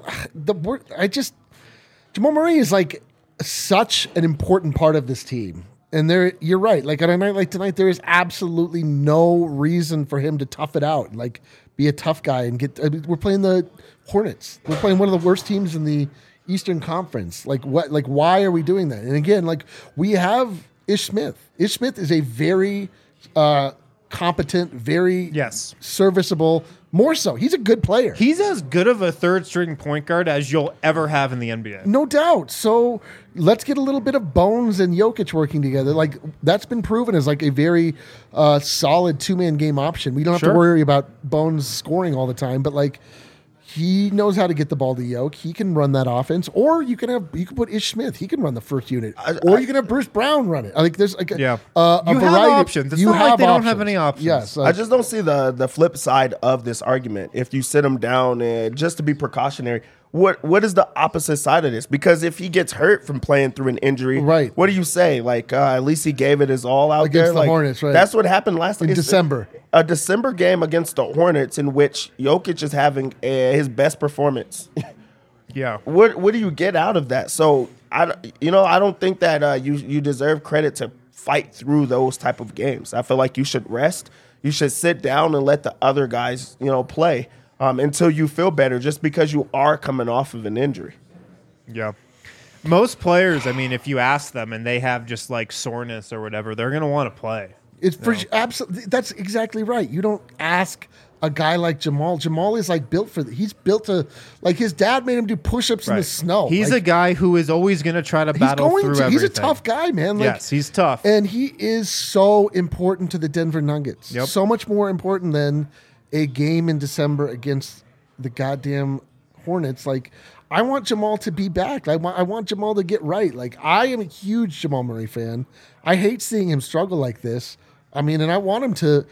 Jamal Murray is like such an important part of this team. And you're right. Like on a night like tonight, there is absolutely no reason for him to tough it out, like be a tough guy and get. We're playing the Hornets. We're playing one of the worst teams in the Eastern Conference. Like what? Like why are we doing that? And again, like we have Ish Smith. Ish Smith is a very competent, very serviceable. More so, he's a good player. He's as good of a third string point guard as you'll ever have in the NBA. No doubt. So let's get a little bit of Bones and Jokic working together. Like that's been proven as like a very solid 2-man game option. We don't have to worry about Bones scoring all the time, but like he knows how to get the ball to Jokic. He can run that offense, or you can put Ish Smith. He can run the first unit, or you can have Bruce Brown run it. Like there's like a you variety. have options. It's not like they don't have any options. Yes, I just don't see the flip side of this argument. If you sit him down and just to be precautionary, what is the opposite side of this? Because if he gets hurt from playing through an injury, right? What do you say? Like at least he gave it his all out against there. the Like, Hornets, right? That's what happened last in December. A December game against the Hornets in which Jokic is having his best performance. Yeah. What do you get out of that? So I don't think that you deserve credit to fight through those type of games. I feel like you should rest. You should sit down and let the other guys play until you feel better, just because you are coming off of an injury. Yeah. Most players, I mean, if you ask them and they have just like soreness or whatever, they're going to want to play. It's for absolutely. That's exactly right. You don't ask a guy like Jamal. Jamal is like built for. He's built to like his dad made him do push-ups in the snow. He's like, a guy who is always going to try to battle through everything. He's a tough guy, man. Like, yes, he's tough. And he is so important to the Denver Nuggets. Yep. So much more important than a game in December against the goddamn Hornets. Like, I want Jamal to be back. I want Jamal to get right. Like, I am a huge Jamal Murray fan. I hate seeing him struggle like this. I mean, and I want him to,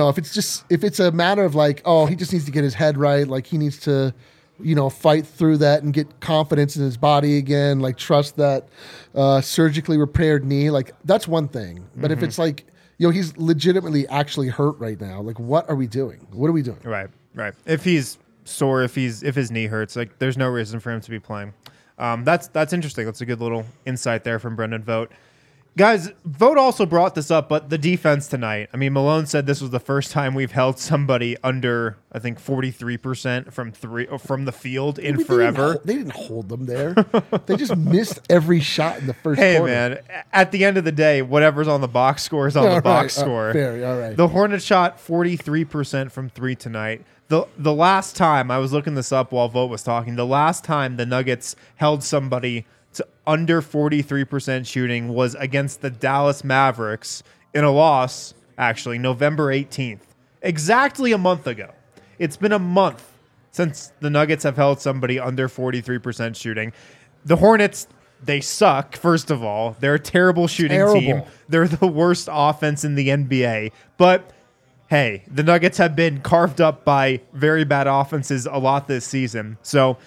if it's a matter of like, oh, he just needs to get his head right. Like, he needs to, fight through that and get confidence in his body again. Like, trust that surgically repaired knee. Like, that's one thing. But if it's like, he's legitimately actually hurt right now. Like, what are we doing? What are we doing? Right. If he's sore, if his knee hurts, like, there's no reason for him to be playing. That's interesting. That's a good little insight there from Brendan Vogt. Guys, Vogt also brought this up, but the defense tonight. I mean, Malone said this was the first time we've held somebody under, I think, 43% from the field in forever. They didn't hold them there. They just missed every shot in the first quarter. Hey, man, at the end of the day, whatever's on the box score is on the box score. Fair, all right. The Hornets shot 43% from three tonight. The last time, I was looking this up while Vogt was talking, the last time the Nuggets held somebody to under 43% shooting was against the Dallas Mavericks in a loss, actually, November 18th. Exactly a month ago. It's been a month since the Nuggets have held somebody under 43% shooting. The Hornets, they suck, first of all. They're a terrible shooting team. They're the worst offense in the NBA. But hey, the Nuggets have been carved up by very bad offenses a lot this season. So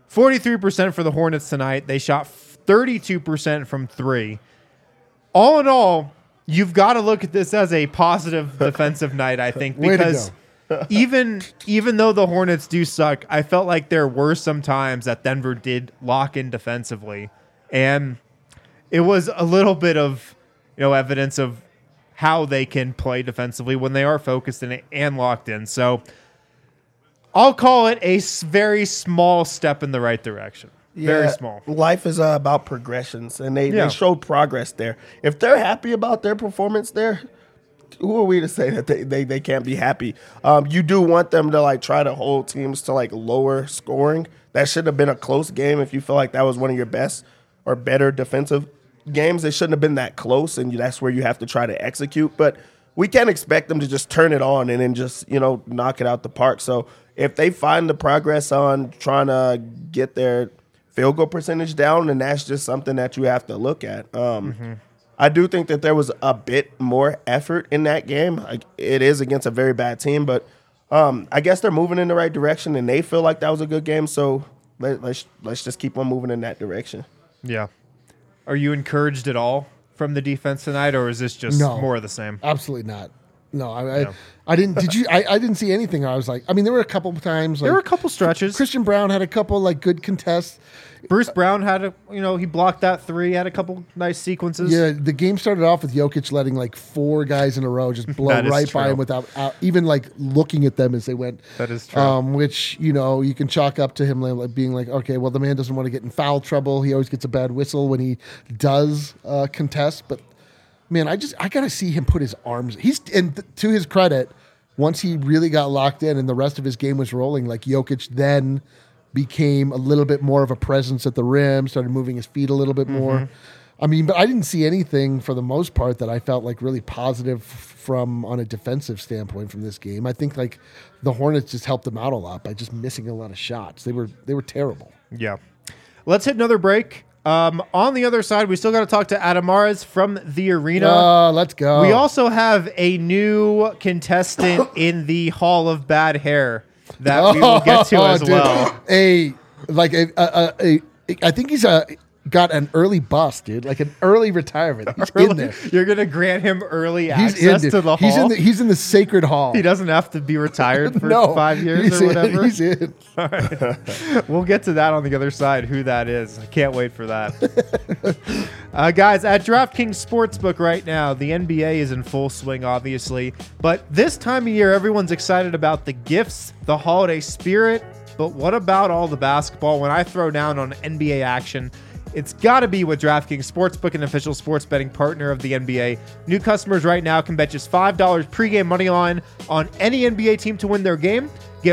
43% for the Hornets tonight. They shot 32% from three. All in all, you've got to look at this as a positive defensive night, I think, because even though the Hornets do suck, I felt like there were some times that Denver did lock in defensively. And it was a little bit of, evidence of how they can play defensively when they are focused and locked in. So I'll call it a very small step in the right direction. Yeah, very small. Life is about progressions, and they showed progress there. If they're happy about their performance there, who are we to say that they can't be happy? You do want them to try to hold teams to lower scoring. That should have been a close game. If you feel like that was one of your best or better defensive games, it shouldn't have been that close, and that's where you have to try to execute. But we can't expect them to just turn it on and then just knock it out the park. So if they find the progress on trying to get their field goal percentage down, and that's just something that you have to look at. I do think that there was a bit more effort in that game. It is against a very bad team, but I guess they're moving in the right direction, and they feel like that was a good game. So let's just keep on moving in that direction. Yeah. Are you encouraged at all from the defense tonight, or is this just more of the same? Absolutely not. No, I didn't. Did you? I didn't see anything. I was like, there were a couple times. There were a couple stretches. Christian Brown had a couple good contests. Bruce Brown had he blocked that three, had a couple nice sequences. Yeah, the game started off with Jokic letting four guys in a row just blow right by him without even looking at them as they went. That is true. Which you can chalk up to him being okay, well, the man doesn't want to get in foul trouble. He always gets a bad whistle when he does contest. But man, I gotta see him put his arms. To his credit, once he really got locked in and the rest of his game was rolling, Jokic then became a little bit more of a presence at the rim, started moving his feet a little bit more. But I didn't see anything for the most part that I felt really positive from on a defensive standpoint from this game. I think the Hornets just helped them out a lot by just missing a lot of shots. They were terrible. Yeah. Let's hit another break. On the other side, we still got to talk to Adam Mares from the arena. Let's go. We also have a new contestant in the Hall of Bad Hair that we will get to as well. I think he's got an early bust, dude, an early retirement. He's in there. You're going to grant him early access to the hall? He's in the sacred hall. He doesn't have to be retired for 5 years or whatever? He's in. All right. We'll get to that on the other side, who that is. I can't wait for that. Guys, at DraftKings Sportsbook right now, the NBA is in full swing, obviously. But this time of year, everyone's excited about the gifts, the holiday spirit. But what about all the basketball? When I throw down on NBA action, It's got to be with DraftKings Sportsbook, an official sports betting partner of the NBA. New customers right now can bet just $5 pregame money line on any NBA team to win their game. Get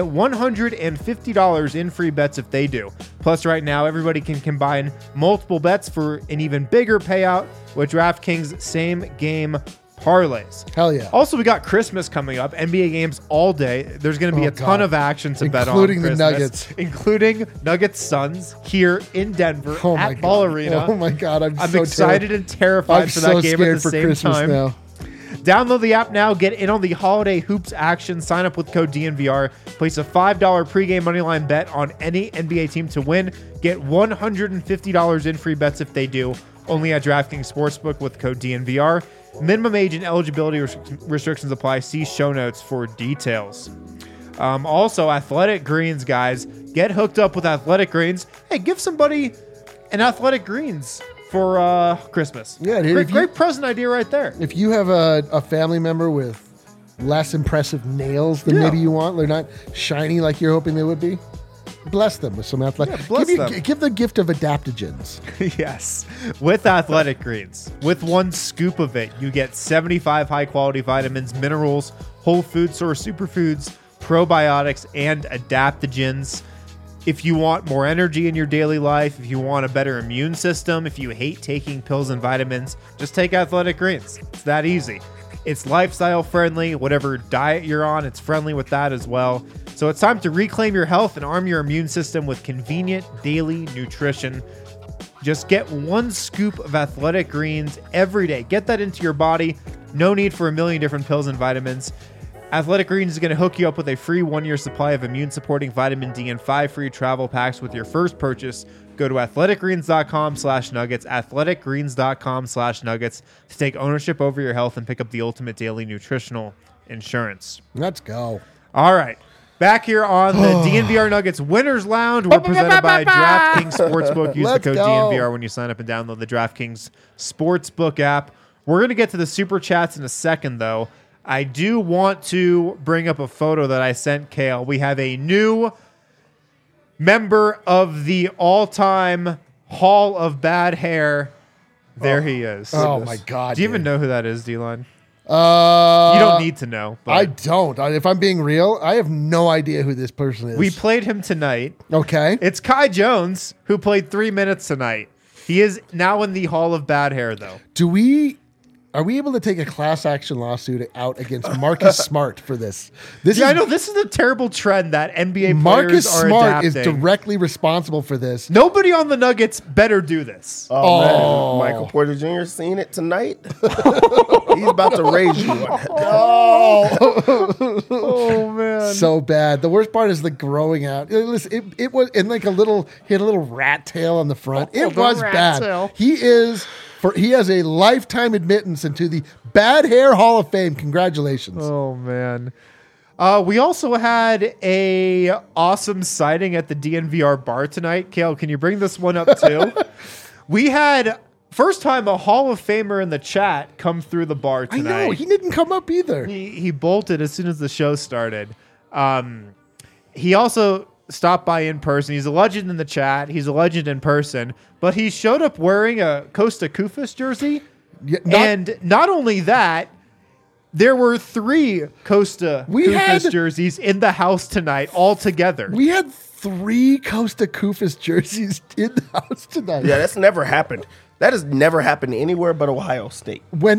$150 in free bets if they do. Plus, right now, everybody can combine multiple bets for an even bigger payout with DraftKings same-game parlays. Hell yeah. Also, we got Christmas coming up. NBA games all day. There's going to be a ton of action to bet on. Including the Christmas, Nuggets. Including Nuggets Suns here in Denver at Ball Arena. Oh my God. I'm so excited and terrified I'm for that so game scared at the for same Christmas time. now. Download the app now. Get in on the holiday hoops action. Sign up with code DNVR. Place a $5 pregame moneyline bet on any NBA team to win. Get $150 in free bets if they do. Only at DraftKings Sportsbook with code DNVR. Minimum age and eligibility restrictions apply. See show notes for details. Also, Athletic Greens, guys. Get hooked up with Athletic Greens. Hey, give somebody an Athletic Greens for Christmas. Yeah, dude. Great present idea right there. If you have a family member with less impressive nails than maybe you want, they're not shiny like you're hoping they would be, bless them with some athletic. Give the gift of adaptogens. Yes. With Athletic Greens. With one scoop of it, you get 75 high-quality vitamins, minerals, whole food source superfoods, probiotics, and adaptogens. If you want more energy in your daily life, if you want a better immune system, if you hate taking pills and vitamins, just take Athletic Greens. It's that easy. It's lifestyle friendly. Whatever diet you're on, it's friendly with that as well. So it's time to reclaim your health and arm your immune system with convenient daily nutrition. Just get one scoop of Athletic Greens every day. Get that into your body. No need for a million different pills and vitamins. Athletic Greens is going to hook you up with a free 1-year supply of immune-supporting vitamin D and 5 free travel packs with your first purchase. Go to athleticgreens.com/nuggets, athleticgreens.com/nuggets to take ownership over your health and pick up the ultimate daily nutritional insurance. Let's go. All right. Back here on the DNVR Nuggets Winners Lounge, we're presented by DraftKings Sportsbook. Use the code DNVR when you sign up and download the DraftKings Sportsbook app. We're going to get to the Super Chats in a second, though. I do want to bring up a photo that I sent Kale. We have a new member of the all-time Hall of Bad Hair. There he is. Oh, my God. Do you even know who that is, D-Line? You You don't need to know. But I don't. If I'm being real, I have no idea who this person is. we played him tonight. Okay. It's Kai Jones, who played 3 minutes tonight. He is now in the Hall of Bad Hair, though. Are we able to take a class action lawsuit out against Marcus Smart for this? I know this is a terrible trend that NBA Marcus players are Smart adapting. is directly responsible for this. Nobody on the Nuggets better do this. Man. Michael Porter Jr. seen it tonight. He's about to raise you. Oh man, So bad. The worst part is the growing out. Listen, it was in like he had a little rat tail on the front. Oh, It the was rat bad. tail. He has a lifetime admittance into the Bad Hair Hall of Fame. Congratulations. Oh man. We also had a awesome sighting at the DNVR bar tonight. Kale, can you bring this one up too? We had first time a Hall of Famer in the chat come through the bar I tonight. know. He didn't come up either. He bolted as soon as the show started. He also stopped by in person. He's a legend in the chat. He's a legend in person. But he showed up wearing a Costa Koufos jersey. Yeah, And not only that, there were 3 Costa Koufos jerseys in the house tonight all together. We had 3 Costa Koufos jerseys in the house tonight. Yeah, that's never happened. That has never happened anywhere but Ohio State.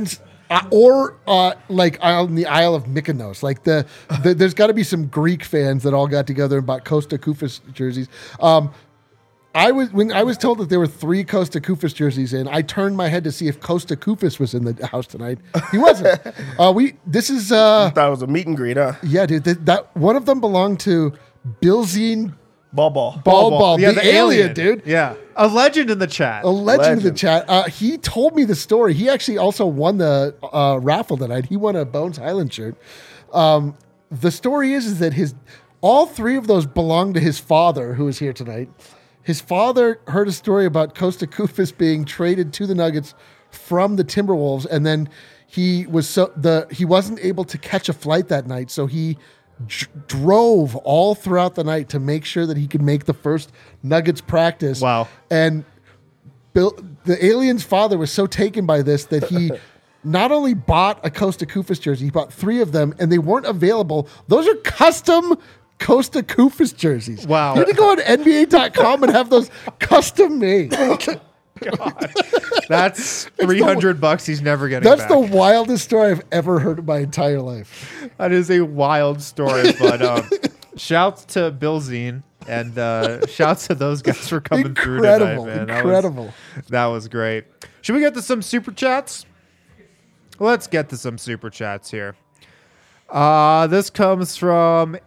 Like on the Isle of Mykonos. Like there's got to be some Greek fans that all got together and bought Costa Koufos jerseys. When I was told that there were 3 Costa Koufos jerseys in, I turned my head to see if Costa Koufos was in the house tonight. He wasn't. This is I thought it was a meet and greet, huh? yeah, dude. That one of them belonged to Bilzine Ball. Yeah, the alien, dude. Yeah. A legend in the chat. A legend in the Legend. chat. He told me the story. He actually also won the raffle tonight. He won a Bones Highland shirt. The story is that all 3 of those belong to his father, who is here tonight. His father heard a story about Costa Koufos being traded to the Nuggets from the Timberwolves, and then he wasn't able to catch a flight that night, so he drove all throughout the night to make sure that he could make the first Nuggets practice. Wow. And the alien's father was so taken by this that he not only bought a Costa Koufos jersey, he bought 3 of them, and they weren't available. Those are custom Costa Koufos jerseys. Wow. You had to go on NBA.com and have those custom made. God. That's $300 he's never getting That's back. the wildest story I've ever heard in my entire life. That is a wild story, but shouts to Bill Zine and shouts to those guys for coming through tonight, man. Incredible. That was great. Should we get to some super chats? Let's get to some super chats here. This comes from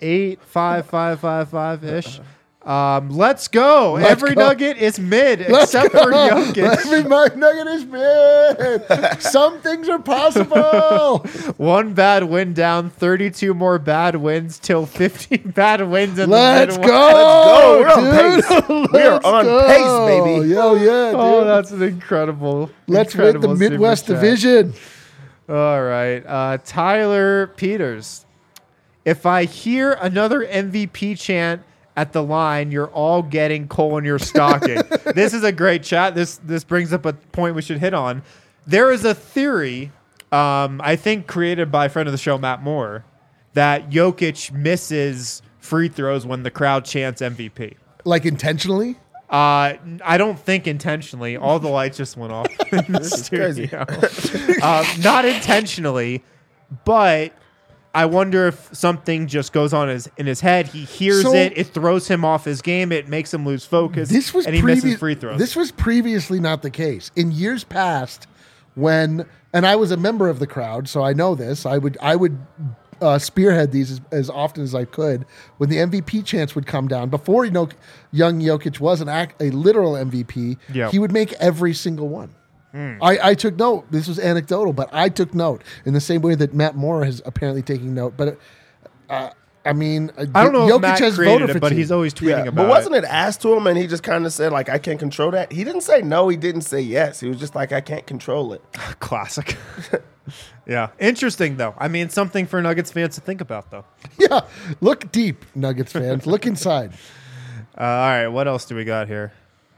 85555-ish. Let's go. Every nugget is mid except for Jokic. Every nugget is mid. Some things are possible. 1 bad win down, 32 more bad wins till 15 bad wins in Let's the go. Let's go. We're on pace. We are on pace, baby. Yo, yeah, dude. Oh, that's an incredible. Let's win the incredible Midwest super chat. Division. All right. Tyler Peters. If I hear another MVP chant at the line, you're all getting coal in your stocking. This is a great chat. This brings up a point we should hit on. There is a theory, I think created by a friend of the show, Matt Moore, that Jokic misses free throws when the crowd chants MVP. Like intentionally? I don't think intentionally. All the lights just went off in the studio. Not intentionally, but I wonder if something just goes on in his head. He hears it. It throws him off his game. It makes him lose focus. And he misses free throws. This was previously not the case. In years past, and I was a member of the crowd, so I know this. I would spearhead these as often as I could. When the MVP chants would come down, before young Jokic was a literal MVP, he would make every single one. I took note. This was anecdotal, but I took note in the same way that Matt Moore is apparently taking note. But I don't know Jokic if Matt has created voter it, but fatigue. he's always tweeting about But wasn't it asked to him and he just kind of said, like, I can't control that? He didn't say no. He didn't say yes. He was just like, I can't control it. Classic. Yeah. Interesting, though. I mean, something for Nuggets fans to think about, though. Yeah, look deep, Nuggets fans. Look inside. All right. What else do we got here?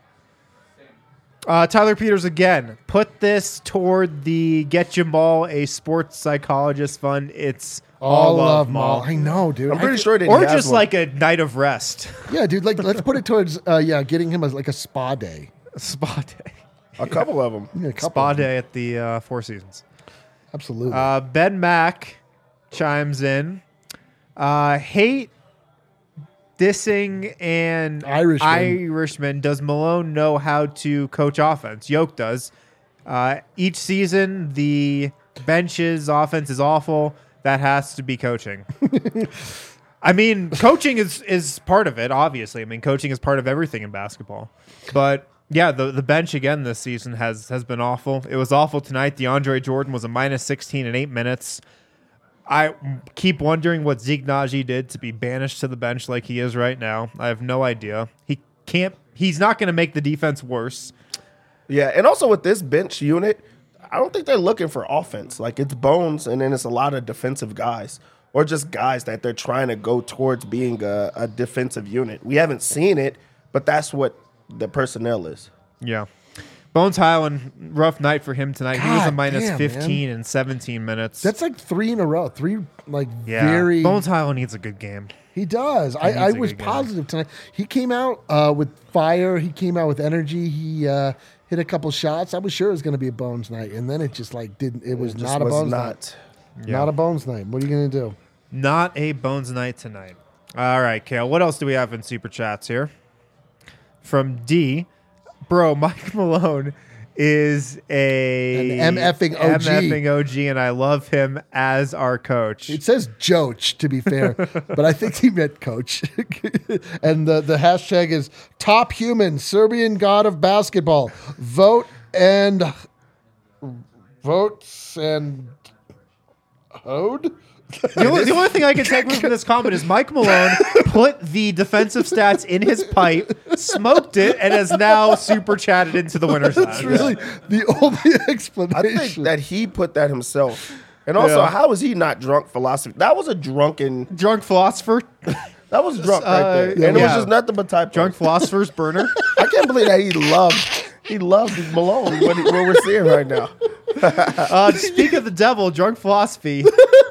Tyler Peters again. Put this toward the Get Jamal a Sports Psychologist Fund. It's all love, Maul. I know, dude. I'm pretty sure it Or just like a night of rest. Yeah, dude. Like, let's put it towards getting him as like a spa day. Spa day. a couple of them. Yeah, a couple Spa of them. day at the Four Seasons. Absolutely. Ben Mack chimes in. Hate dissing and Irishman. Does Malone know how to coach offense? Yoke does. Each season, the bench's offense is awful. That has to be coaching. I mean, coaching is part of it, obviously. I mean, coaching is part of everything in basketball. But yeah, the bench again this season has been awful. It was awful tonight. DeAndre Jordan was a minus 16 in 8 minutes. I keep wondering what Zeke Naji did to be banished to the bench like he is right now. I have no idea. He's not going to make the defense worse. Yeah, and also with this bench unit, I don't think they're looking for offense. Like, it's Bones, and then it's a lot of defensive guys, or just guys that they're trying to go towards being a defensive unit. We haven't seen it, but that's what the personnel is. Yeah. Bones Highland, rough night for him tonight. He was a God minus damn, 15 in 17 minutes. That's like 3 in a row. 3 very. Bones Highland needs a good game. He does. I needs a was good game. positive tonight. He came out with fire. He came out with energy. He hit a couple shots. I was sure it was going to be a Bones night, and then it just like didn't. It was not a Bones night. Yeah. Not a Bones night. What are you going to do? Not a Bones night tonight. All right, Kale. What else do we have in Super Chats here? From D. Bro, Mike Malone is An MFing OG. MFing OG, and I love him as our coach. It says Joach, to be fair, but I think he meant coach. And the hashtag is top human, Serbian god of basketball. Votes and Hode? The only thing I can take from this comment is Mike Malone put the defensive stats in his pipe, smoked it, and has now super chatted into the winner's That's side. really the only explanation. I think that he put that himself. And also, how is he not drunk philosophy? That was a Drunk philosopher. that was drunk right there. And it was just nothing but type. Drunk philosopher's burner. I can't believe that He loves Malone. What we're seeing right now. Speak of the devil, drunk philosophy.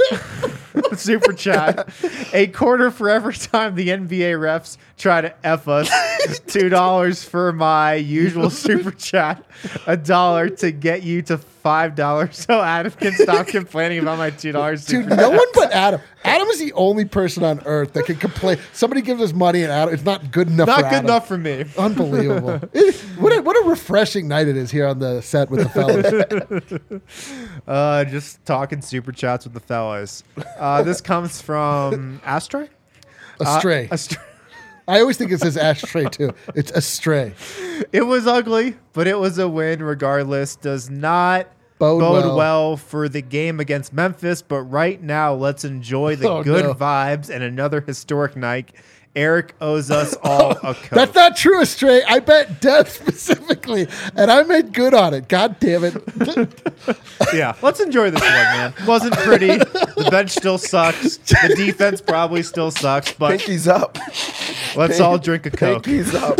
Super chat. A quarter for every time the NBA refs try to F us. $2 for my usual super chat. $1 to get you to $5 so Adam can stop complaining about my $2. Dude, no one but Adam. Adam is the only person on earth that can complain. Somebody gives us money and Adam, it's not good enough for Not good Adam. enough for me. Unbelievable. What a refreshing night it is here on the set with the fellas. Just talking super chats with the fellas. This comes from Astray? Astray. Astray. I always think it says ashtray too. It's astray. It was ugly, but it was a win regardless. Does not Bode bode well. well for the game against Memphis, but right now let's enjoy the Oh, good no. vibes and another historic night. Eric owes us all a Coke. That's not true, Astray. I bet death specifically, and I made good on it. God damn it. Yeah, let's enjoy this one, man. Wasn't pretty. The bench still sucks. The defense probably still sucks, but Pinky's up. let's all drink a Coke. Pinky's up.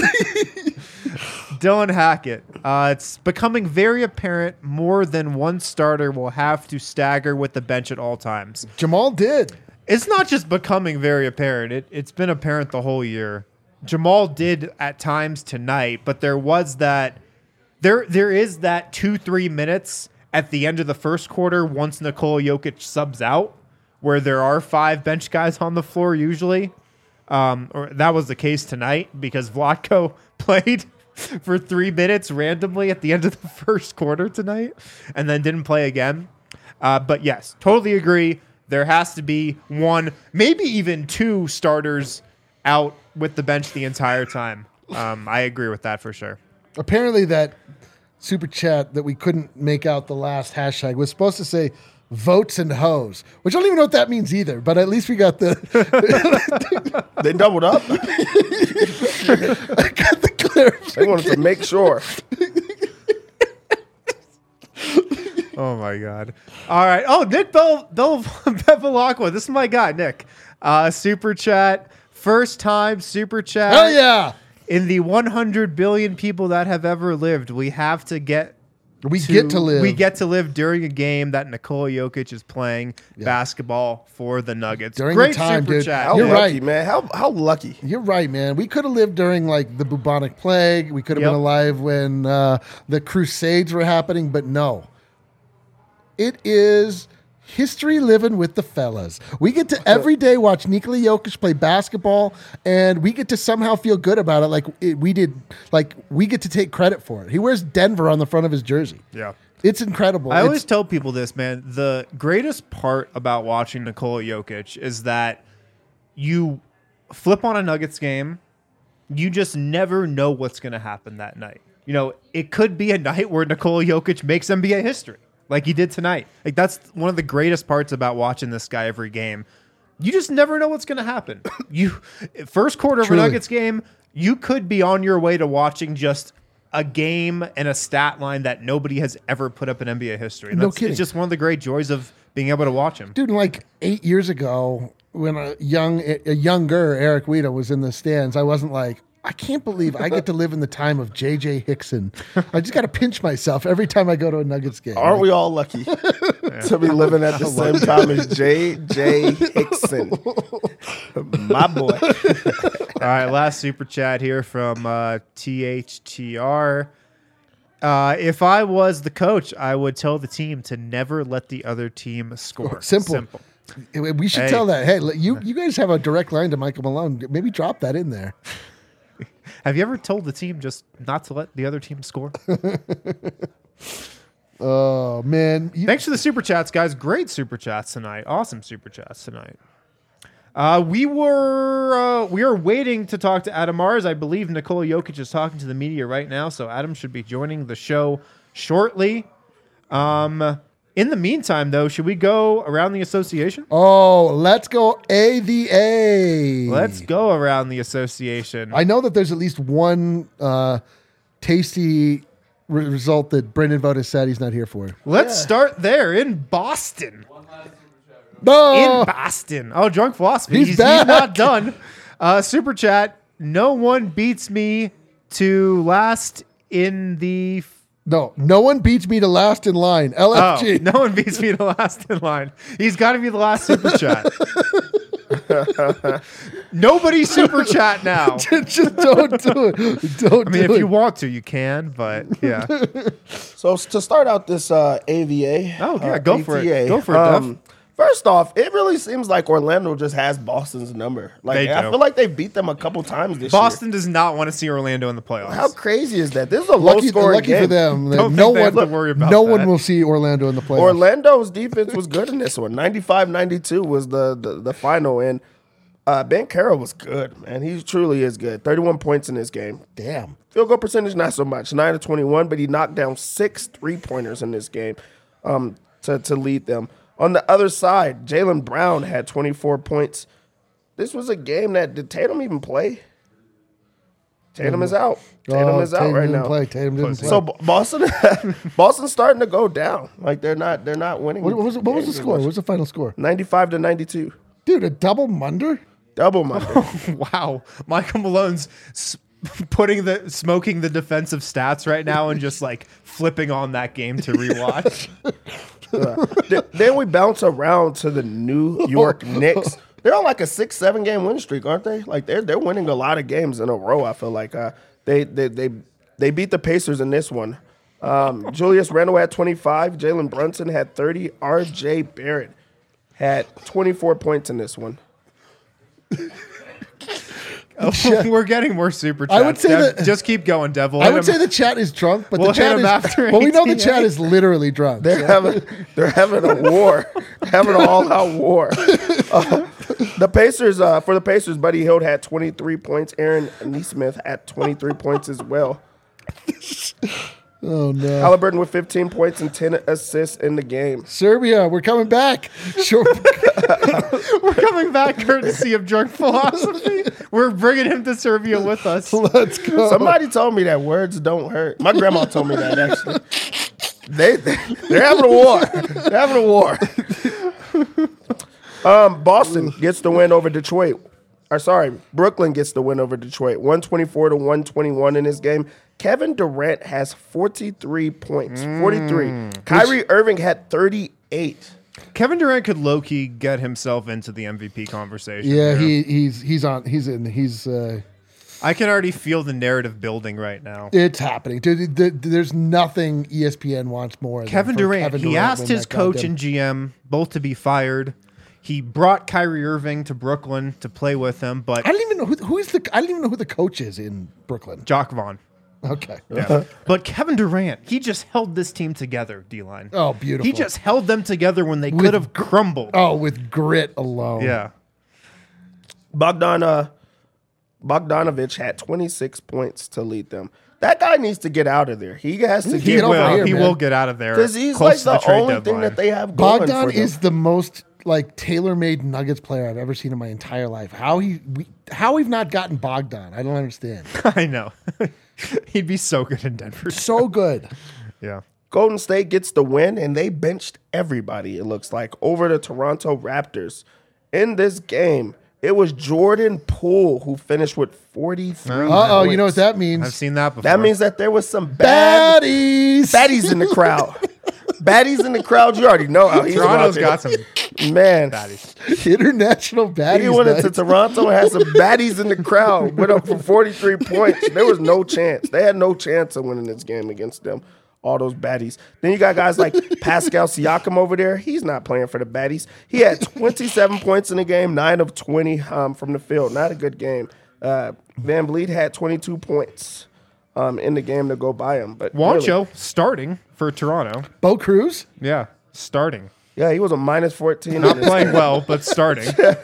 Dylan Hackett. It's becoming very apparent more than one starter will have to stagger with the bench at all times. Jamal did. It's not just becoming very apparent. It's been apparent the whole year. Jamal did at times tonight, but there was that there is that 2-3 minutes at the end of the first quarter once Nikola Jokic subs out, where there are 5 bench guys on the floor usually. Or that was the case tonight because Vlatko played for 3 minutes randomly at the end of the first quarter tonight and then didn't play again. But yes, totally agree. There has to be 1, maybe even 2 starters out with the bench the entire time. I agree with that for sure. Apparently that super chat that we couldn't make out the last hashtag was supposed to say votes and hoes, which I don't even know what that means either, but at least we got the They doubled up. I got the clarification. They wanted to make sure. Oh my God. All right. Oh, Nick Bevilacqua. This is my guy, Nick. Super chat. First time super chat. Hell yeah. In the 100 billion people that have ever lived, we have to get We get to live. We get to live during a game that Nikola Jokic is playing basketball for the Nuggets. During Great the time, super dude. chat. How You're lucky, right. man. How lucky. You're right, man. We could have lived during like the bubonic plague. We could have Yep. been alive when the Crusades were happening, but no. It is history living with the fellas. We get to every day watch Nikola Jokic play basketball, and we get to somehow feel good about it. We get to take credit for it. He wears Denver on the front of his jersey. Yeah. It's incredible. I It's- always tell people this, man. The greatest part about watching Nikola Jokic is that you flip on a Nuggets game, you just never know what's going to happen that night. You know, it could be a night where Nikola Jokic makes NBA history, like he did tonight. Like that's one of the greatest parts about watching this guy every game. You just never know what's going to happen. First quarter of a Truly. Nuggets game, you could be on your way to watching just a game and a stat line that nobody has ever put up in NBA history. And No that's, kidding. It's just one of the great joys of being able to watch him. Dude, like 8 years ago, when a younger Eric Weeda was in the stands, I wasn't like, I can't believe I get to live in the time of J.J. Hickson. I just got to pinch myself every time I go to a Nuggets game. Aren't we all lucky to be living at the same time as J.J. Hickson? My boy. All right, last super chat here from THTR. If I was the coach, I would tell the team to never let the other team score. Simple. We should Hey. tell that. Hey, you guys have a direct line to Michael Malone. Maybe drop that in there. Have you ever told the team just not to let the other team score? Oh, man. Thanks for the super chats, guys. Great super chats tonight. Awesome super chats tonight. We are waiting to talk to Adam Mars. I believe Nikola Jokic is talking to the media right now, so Adam should be joining the show shortly. In the meantime, though, should we go around the association? Oh, let's go the A. Let's go around the association. I know that there's at least one tasty result that Brendan Voda said he's not here for. Let's start there in Boston. No. In Boston. Oh, Drunk Philosophy. He's He's back. not done. Super chat. No one beats me to last in the. No one beats me to last in line. Oh, LFG. no one beats me to last in line. He's got to be the last super chat. Nobody super chat now. Just don't do it. Don't I mean, do if it. you want to, you can, but yeah. So to start out this AVA. Oh, yeah, go for it. ATA, Go for it, Duff. First off, it really seems like Orlando just has Boston's number. Like They I do. feel like they beat them a couple times this year. Boston does not want to see Orlando in the playoffs. How crazy is that? This is a low Lucky scoring game. for them. that Don't no think they one, have to worry about no that. one will see Orlando in the playoffs. Orlando's defense was good in this one. 95-92 was the final, and Ben Carroll was good, man. He truly is good. 31 points in this game. Damn. Field goal percentage, not so much, 9 of 21, but he knocked down 6 3-pointers in this game to lead them. On the other side, Jaylen Brown had 24 points. This was a game that, did Tatum even play? Tatum is out. Tatum is out Tatum right didn't now. Play. Tatum didn't play. So Boston's starting to go down. Like they're not winning. what was the games score? as What much. was the final score? 95-92. Dude, a double munder? Double Monday. Wow. Michael Malone's smoking the defensive stats right now and just like flipping on that game to rewatch. Then we bounce around to the New York Knicks. They're on like a 6-7 game win streak, aren't they? Like they're winning a lot of games in a row. I feel like they beat the Pacers in this one. Julius Randle had 25. Jalen Brunson had 30. R.J. Barrett had 24 points in this one. We're getting more super chats. I would say that- just keep going, Devil. I would say the chat is drunk, but We'll the chat hit is. him after Well, we know the 18, chat eh? is literally drunk. They're having a war, having an all-out war. The Pacers, for the Pacers, Buddy Hield had 23 points. Aaron Nesmith had 23 points as well. Oh no! Halliburton with 15 points and 10 assists in the game. Serbia, we're coming back. Sure. we're coming back courtesy of Drunk Philosophy. We're bringing him to Serbia with us. Let's go. Somebody told me that words don't hurt. My grandma told me that actually. They're having a war. They're having a war. Boston gets the win over Detroit. Brooklyn gets the win over Detroit. 124-121 in this game. Kevin Durant has 43 points. 43. Kyrie Irving had 38. Kevin Durant could low-key get himself into the MVP conversation. Yeah, here. he's on. He's in. He's. I can already feel the narrative building right now. It's happening. Dude, there's nothing ESPN wants more. Kevin than for Durant, Kevin he Durant asked win his that coach goddamn- and GM both to be fired. He brought Kyrie Irving to Brooklyn to play with him, but I don't even know I don't even know who the coach is in Brooklyn. Jock Vaughn. Okay. Yeah. But Kevin Durant, he just held this team together, D-line. Oh, beautiful. He just held them together when they could have crumbled. Oh, with grit alone. Yeah. Bogdanovich had 26 points to lead them. That guy needs to get out of there. He has to Get get over out here, He man. will get out of there. because he's close like to the trade only deadline. thing that they have going Bogdan for them. is the most like tailor-made Nuggets player I've ever seen in my entire life. How we've not gotten Bogdan, I don't understand. I know. He'd be so good in Denver. So good. Yeah. Golden State gets the win, and they benched everybody, it looks like, over the Toronto Raptors. In this game, it was Jordan Poole who finished with 43 Uh-oh, you know what points. that means? I've seen that before. That means that there was some bad Baddies. baddies in the crowd. Baddies in the crowd, you already know how he's Toronto's about got some it. Man, baddies. International baddies. he went into night. Toronto and had some baddies in the crowd. Went up for 43 points. There was no chance. They had no chance of winning this game against them. All those baddies. Then you got guys like Pascal Siakam over there. He's not playing for the baddies. He had 27 points in the game, 9 of 20 from the field. Not a good game. Van Vliet had 22 points in the game to go by him. But Juancho really, starting for Toronto. Bo Cruz. Yeah. Starting. yeah, he was a minus 14. Not playing well, but starting.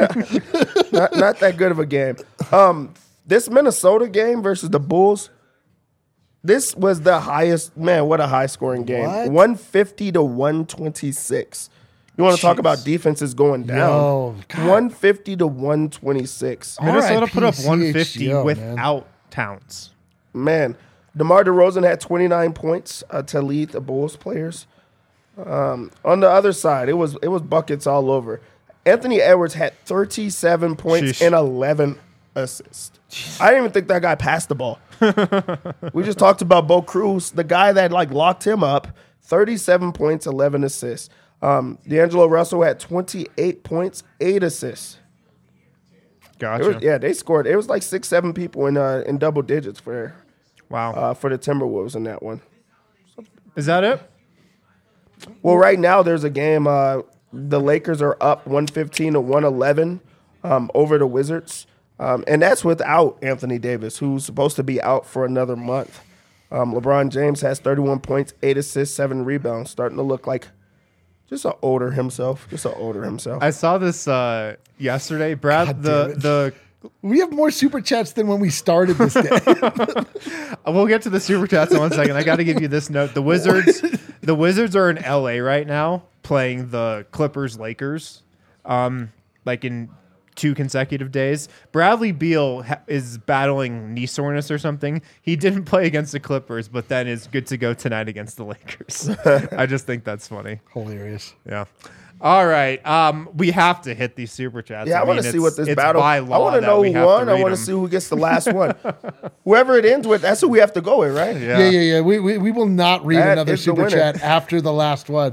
not that good of a game. This Minnesota game versus the Bulls, this was the highest, man, what a high scoring game. What? 150 to 126. You want to talk about defenses going down? Yo, God. 150 to 126. Minnesota put up RIP 150 CHGO, man. without Towns. Man, DeMar DeRozan had 29 points to lead the Bulls players. On the other side, it was buckets all over. Anthony Edwards had 37 points Sheesh. and 11 assists. I didn't even think that guy passed the ball. We just talked about Bo Cruz, the guy that like locked him up. 37 points, 11 assists. D'Angelo Russell had 28 points, 8 assists. Gotcha. They scored. It was like 6-7 people in double digits for the Timberwolves in that one. Is that it? Well, right now there's a game. The Lakers are up 115 to 111 over the Wizards, and that's without Anthony Davis, who's supposed to be out for another month. LeBron James has 31 points, 8 assists, 7 rebounds, starting to look like just an older himself. I saw this yesterday, Brad. We have more super chats than when we started this game. We'll get to the super chats in 1 second. I got to give you this note: the Wizards are in LA right now playing the Clippers Lakers, like in 2 consecutive days. Bradley Beal is battling knee soreness or something. He didn't play against the Clippers, but then is good to go tonight against the Lakers. I just think that's funny. Hilarious. Yeah. All right. We have to hit these super chats. Yeah, I want to see what this it's battle. by I law want to that know we who have won. to I read want to them. see who gets the last one. Whoever it ends with, that's who we have to go with, right? Yeah. We will not read That another is the super winner. chat after the last one.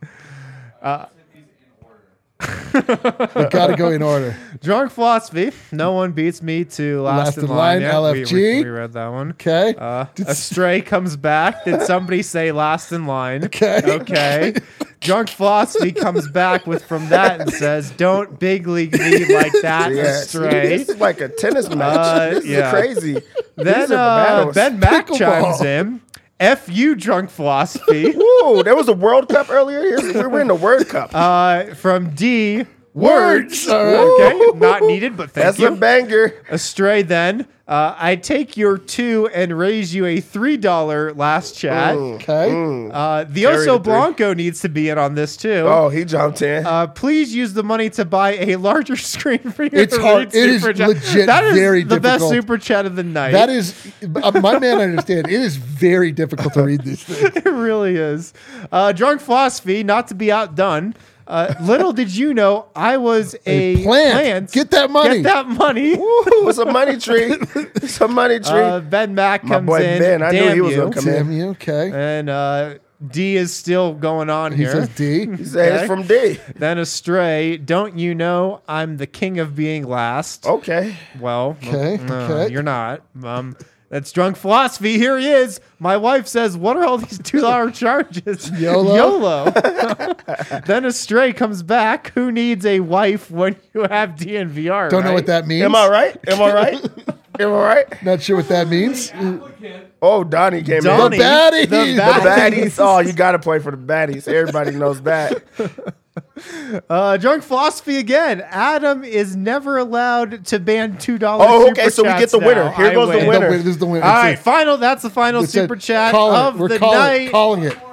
We got to go in order. Drunk Philosophy. No one beats me to Last in Line. Yeah, LFG. We read that one. Okay. Astray comes back. Did somebody say Last in Line? Okay. Okay. Drunk Philosophy comes back with from that and says, "Don't big league me like that, Astray." This is like a tennis match. This is crazy. Then These are the battles. Ben Mack Pickleball. chimes in. F you, Drunk Philosophy. Ooh, there was a World Cup earlier. We were in the World Cup. From D. Words. All right. Okay. Not needed, but thank That's you. a banger. Astray then. I take your 2 and raise you a $3 last chat. Okay. The Oso Blanco needs to be in on this too. Oh, he jumped in. Please use the money to buy a larger screen for your It's hard. It is super chat. legit That is very the best difficult. super chat of the night. That is, my man, I understand. It is very difficult to read these things. It really is. Drunk Philosophy, not to be outdone. Little did you know I was a plant. Get that money. Get that money. Ooh, it's a money tree. It's a money tree. Ben Mack My comes boy in. Ben, I knew Damn he was you. gonna come in. Damn you. Okay. And D is still going on He here. says D. He said it's from D. Then Astray, don't you know I'm the king of being last? Okay. Well, Okay, okay. you're not. That's Drunk Philosophy. Here he is. My wife says, what are all these $2 charges? YOLO? Then Astray comes back. Who needs a wife when you have DNVR? Don't know right? what that means. Am I right? Am I right? Am I right? Not sure what that means. Oh, Donnie came Donnie, in. baddies. The The baddies. baddies. Oh, you got to play for the baddies. Everybody knows that. Drunk Philosophy again. Adam is never allowed to ban $2 Oh, okay, super so we get chats the winner. now. Here I goes the win. winner. This is the winner. All It's right, it. final. That's the final It's it. super chat Calling of it. We're the calling night. it. Calling it.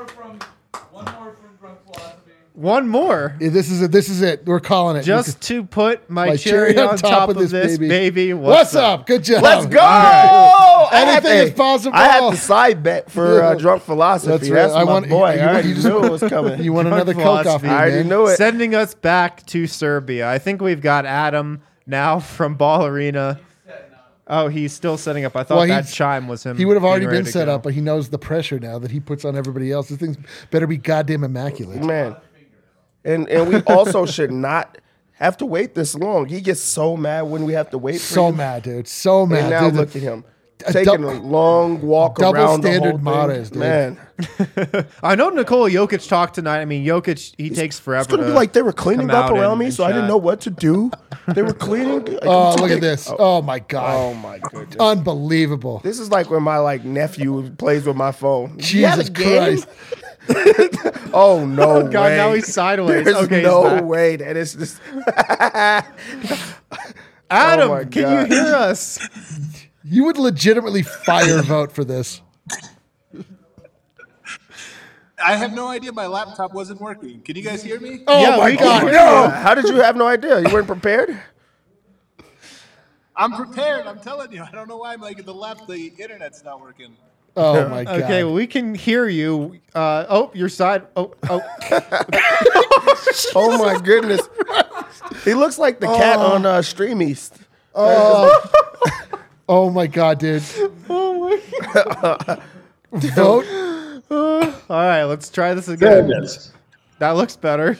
One more. Yeah, this is it. We're calling it. Just to put my cherry on top of this baby. What's up? Good job. Let's go. All right. I had Anything is the- possible. I had the side bet for Drunk Philosophy. That's That's, right. my boy. I already just- knew it was coming. You want Drunk another Coke off philosophy. me, I already man. knew it. Sending us back to Serbia. I think we've got Adam now from Ball Arena. Oh, he's still setting up. I thought Well, that he's- chime was him. He would have being already ready been to set go. up, but he knows the pressure now that he puts on everybody else. This thing better be goddamn immaculate. Man. And we also should not have to wait this long. He gets so mad when we have to wait for So him. mad, dude. So mad. And now Dude, look at him. a Taking dou- a long walk double around standard the whole thing. Mahrez, dude. Man. I know Nikola Jokic talked tonight. I mean, Jokic, he takes forever. It's going to be to like they were cleaning come up out around and- me, and so I didn't chat. know what to do. They were cleaning. Like, Oh, I'm look too at big. this. Oh, my God. Oh, my goodness. Unbelievable. This is like when my nephew plays with my phone. You had a Jesus game? Christ. Oh no God, way! now he's sideways. There's Okay, he's no back. way that is just. Adam, Oh my can God. you hear us? You would legitimately fire vote for this. I have no idea. My laptop wasn't working. Can you guys hear me? Oh, Yeah, my we God. can. No. How did you have no idea? You weren't prepared. I'm prepared. I'm telling you. I don't know why. The internet's not working. Oh, my God. Okay, well, we can hear you. Your side. Oh. Oh my goodness! He looks like the cat on Stream East. Oh my god, dude. Oh my Vote. All right, let's try this again. Goodness. That looks better.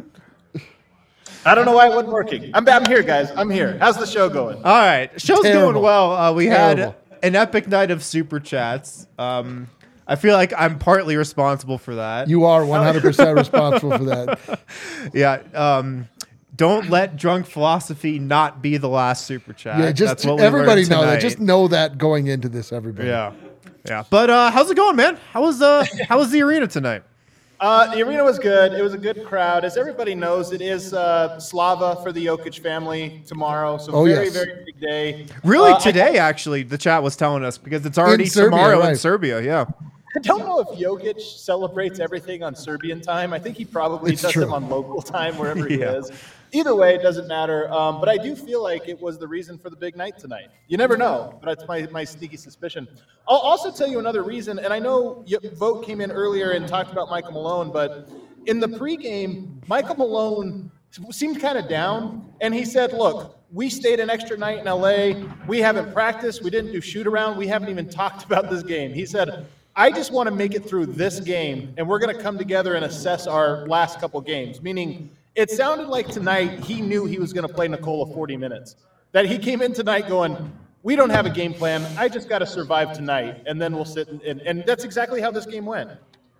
I don't know why it wasn't working. I'm here, guys. I'm here. How's the show going? All right, show's Terrible. going well. We Terrible. had an epic night of super chats. I feel like I'm partly responsible for that. You are 100% responsible for that. Yeah. Don't let drunk philosophy not be the last super chat. Yeah, just That's what we everybody learned know that. tonight. Just know that going into this, everybody. Yeah. But how's it going, man? How was the arena tonight? The arena was good. It was a good crowd. As everybody knows, it is Slava for the Jokic family tomorrow. So very big day. Really, today actually, the chat was telling us because it's already Serbia, tomorrow in right. Serbia. Yeah. I don't know if Jokic celebrates everything on Serbian time. I think he probably It's does true. them on local time wherever he Yeah. is. Either way, it doesn't matter. But I do feel like it was the reason for the big night tonight. You never know, but that's my sneaky suspicion. I'll also tell you another reason, and I know Vogt came in earlier and talked about Michael Malone, but in the pregame, Michael Malone seemed kind of down, and he said, look, we stayed an extra night in LA. We haven't practiced. We didn't do shoot around. We haven't even talked about this game. He said, I just want to make it through this game, and we're going to come together and assess our last couple games, meaning it sounded like tonight he knew he was going to play Nikola 40 minutes, that he came in tonight going, we don't have a game plan. I just got to survive tonight, and then we'll sit and that's exactly how this game went.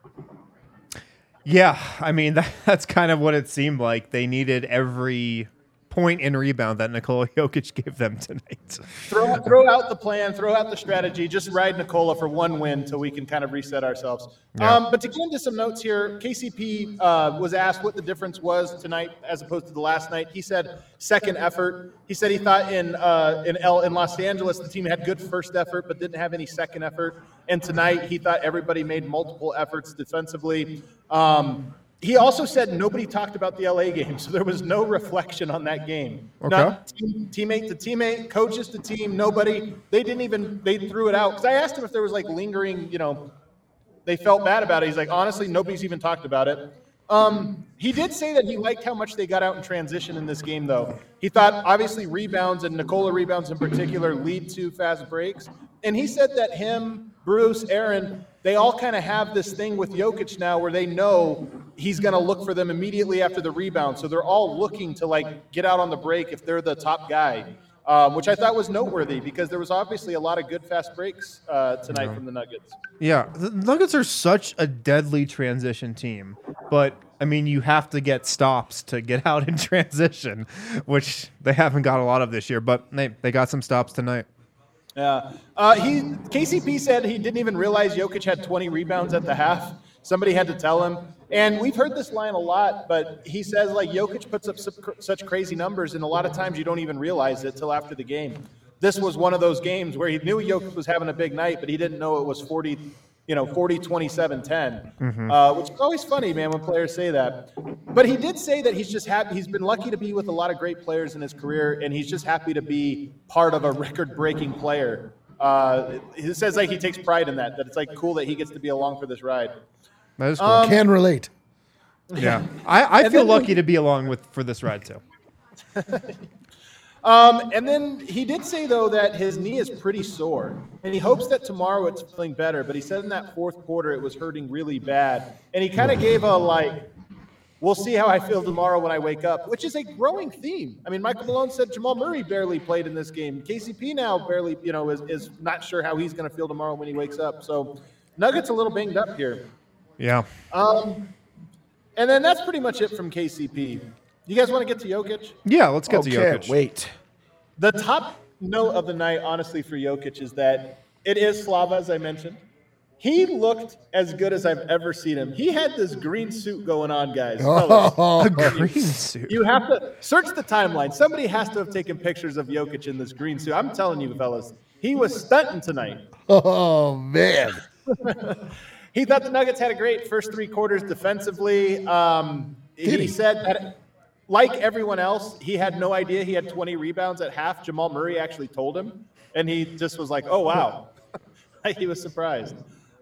Yeah, I mean that's kind of what it seemed like. They needed every point and rebound that Nikola Jokic gave them tonight. Throw out the plan, throw out the strategy, just ride Nikola for one win till we can kind of reset ourselves. Yeah. But to get into some notes here, KCP was asked what the difference was tonight as opposed to the last night. He said second effort. He said he thought in Los Angeles the team had good first effort but didn't have any second effort. And tonight he thought everybody made multiple efforts defensively. He also said nobody talked about the LA game, so there was no reflection on that game. Okay. Not teammate to teammate, coaches to team, nobody. They threw it out. Because I asked him if there was like lingering, they felt bad about it. He's like, honestly, nobody's even talked about it. He did say that he liked how much they got out in transition in this game, though. He thought, obviously, rebounds, and Nikola rebounds in particular, lead to fast breaks. And he said that him, Bruce, Aaron, they all kind of have this thing with Jokic now where they know he's going to look for them immediately after the rebound. So they're all looking to, get out on the break if they're the top guy, which I thought was noteworthy because there was obviously a lot of good fast breaks tonight from the Nuggets. Yeah, the Nuggets are such a deadly transition team, but I mean, you have to get stops to get out in transition, which they haven't got a lot of this year, but they got some stops tonight. Yeah. KCP said he didn't even realize Jokic had 20 rebounds at the half. Somebody had to tell him. And we've heard this line a lot, but he says, Jokic puts up such crazy numbers, and a lot of times you don't even realize it till after the game. This was one of those games where he knew Jokic was having a big night, but he didn't know it was 40, 27, 10, which is always funny, man, when players say that. But he did say that he's just happy. He's been lucky to be with a lot of great players in his career, and he's just happy to be part of a record-breaking player. He says he takes pride in that it's cool that he gets to be along for this ride. That is cool. Can relate. Yeah, I feel lucky to be along for this ride too. And then he did say, though, that his knee is pretty sore, and he hopes that tomorrow it's feeling better. But he said in that fourth quarter it was hurting really bad, and he kind of gave we'll see how I feel tomorrow when I wake up, which is a growing theme. I mean, Michael Malone said Jamal Murray barely played in this game. KCP now barely, is not sure how he's going to feel tomorrow when he wakes up. So Nuggets a little banged up here. Yeah. And then that's pretty much it from KCP. You guys want to get to Jokic? Yeah, let's get to Can't Jokic. wait. The top note of the night, honestly, for Jokic is that it is Slava, as I mentioned. He looked as good as I've ever seen him. He had this green suit going on, guys. Fellas. A green suit. You have to search the timeline. Somebody has to have taken pictures of Jokic in this green suit. I'm telling you, fellas, he was stunting tonight. Oh, man. He thought the Nuggets had a great first three quarters defensively. He said that, like everyone else, he had no idea he had 20 rebounds at half. Jamal Murray actually told him, and he just was like, oh, wow. He was surprised.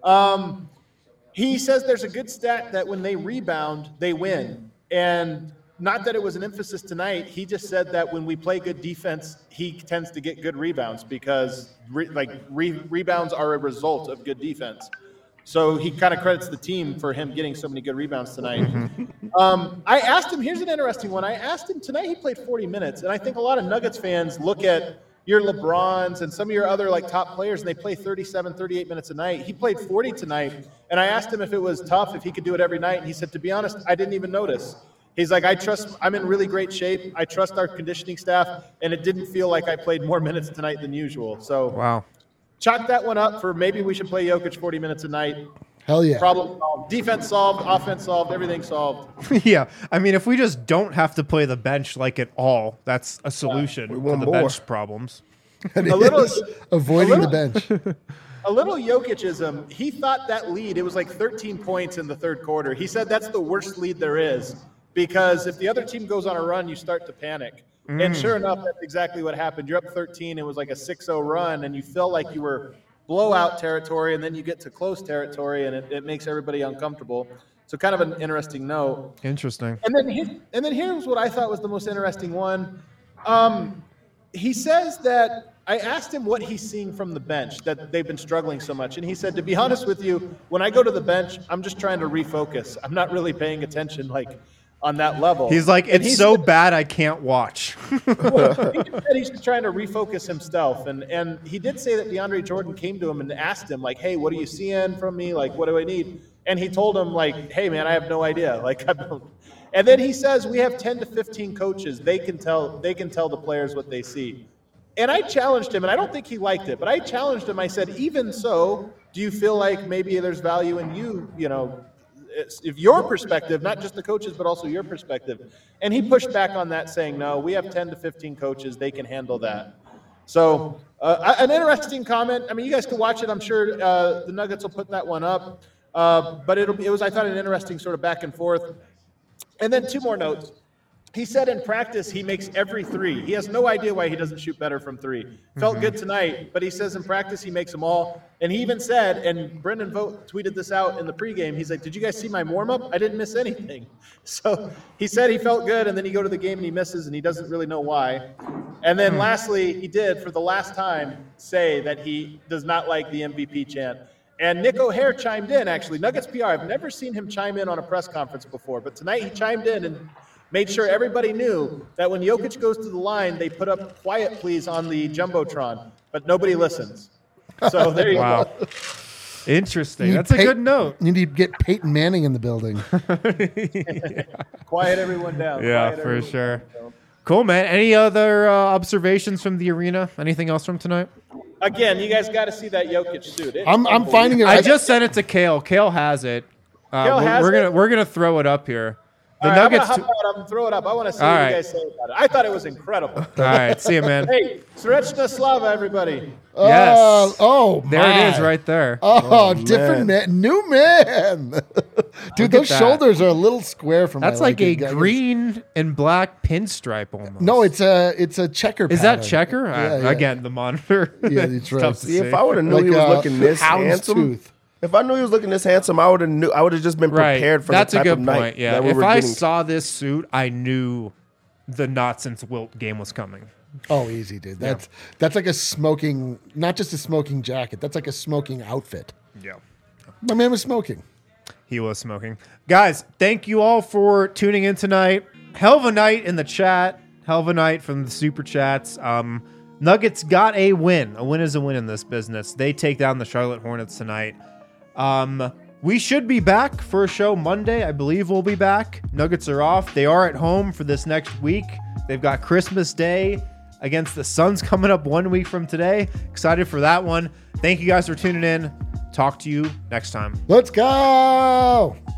He says there's a good stat that when they rebound, they win. And not that it was an emphasis tonight. He just said that when we play good defense, he tends to get good rebounds because rebounds are a result of good defense. So he kind of credits the team for him getting so many good rebounds tonight. I asked him, here's an interesting one. I asked him tonight, he played 40 minutes. And I think a lot of Nuggets fans look at your LeBrons and some of your other like top players, and they play 37, 38 minutes a night. He played 40 tonight. And I asked him if it was tough, if he could do it every night. And he said, to be honest, I didn't even notice. He's like, I'm in really great shape. I trust our conditioning staff. And it didn't feel like I played more minutes tonight than usual. So Wow. Chalk that one up for maybe we should play Jokic 40 minutes a night. Hell yeah. Problem solved. Defense solved. Offense solved. Everything solved. Yeah. I mean, if we just don't have to play the bench like at all, that's a solution to want the more. bench problems. A little, Avoiding a the little- bench. a little Jokicism. He thought that lead, it was like 13 points in the third quarter. He said that's the worst lead there is because if the other team goes on a run, you start to panic. And sure enough, that's exactly what happened. You're up 13. It was like a 6-0 run, and you felt like you were blowout territory, and then you get to close territory, and it makes everybody uncomfortable. So kind of an interesting note. Interesting. And then here's what I thought was the most interesting one. He says that I asked him what he's seeing from the bench, that they've been struggling so much. And he said, to be honest with you, when I go to the bench, I'm just trying to refocus. I'm not really paying attention like on that level. He's like, And it's he so said- bad I can't watch. he said he's just trying to refocus himself. And he did say that DeAndre Jordan came to him and asked him, like, hey, what are you seeing from me? Like, what do I need? And he told him, like, hey, man, I have no idea. Like, I don't. And then he says, we have 10 to 15 coaches. They can tell the players what they see. And I challenged him, and I don't think he liked it, but I challenged him. I said, even so, do you feel like maybe there's value in you, if your perspective, not just the coaches, but also your perspective? And he pushed back on that, saying, no, we have 10 to 15 coaches. They can handle that. So an interesting comment. I mean, you guys can watch it. I'm sure the Nuggets will put that one up. But it was, I thought, an interesting sort of back and forth. And then two more notes. He said in practice he makes every three. He has no idea why he doesn't shoot better from three. Felt good tonight, but he says in practice he makes them all. And he even said, and Brendan Vogt tweeted this out in the pregame, he's like, did you guys see my warm-up? I didn't miss anything. So he said he felt good, and then you go to the game and he misses, and he doesn't really know why. And then lastly, he did, for the last time, say that he does not like the MVP chant. And Nick O'Hare chimed in, actually. Nuggets PR, I've never seen him chime in on a press conference before, but tonight he chimed in and made sure everybody knew that when Jokic goes to the line, they put up "Quiet Please" on the Jumbotron, but nobody listens. So there you Wow. go. Interesting. That's a good note. You need to get Peyton Manning in the building. Quiet everyone down. Yeah, Quiet for everyone sure. down. Cool, man. Any other observations from the arena? Anything else from tonight? Again, you guys got to see that Jokic suit. It's I'm finding it. I just sent it to Kale. Kale has it. Kale has it? We're gonna throw it up here. The All right, Nuggets. I'm gonna hop out and throw it up. I want to see All what right. you guys say about it. I thought it was incredible. All right, see you, man. Hey, Srečna Slava, everybody. Yes. Oh, There my. it is, right there. Oh, different man. New man. Dude, those that. shoulders are a little square for my That's like a liking, guys. green and black pinstripe almost. No, it's a checker Is that pattern. checker? Yeah. Again, the monitor. Yeah, that's right. Tough to See, if see. I would have knew Like he was a looking this hound's handsome, tooth. if I knew he was looking this handsome, I would have just been Right. prepared for That's the a type good of night point. Yeah. that we If were I getting. saw this suit, I knew the not since Wilt game was coming. Oh, easy, dude. That's like a smoking, not just a smoking jacket. That's like a smoking outfit. Yeah. My man was smoking. He was smoking. Guys, thank you all for tuning in tonight. Hell of a night in the chat. Hell of a night from the super chats. Nuggets got a win. A win is a win in this business. They take down the Charlotte Hornets tonight. We should be back for a show Monday. I believe we'll be back. Nuggets are off. They are at home for this next week. They've got Christmas Day against the Suns coming up 1 week from today. Excited for that one. Thank you guys for tuning in. Talk to you next time. Let's go.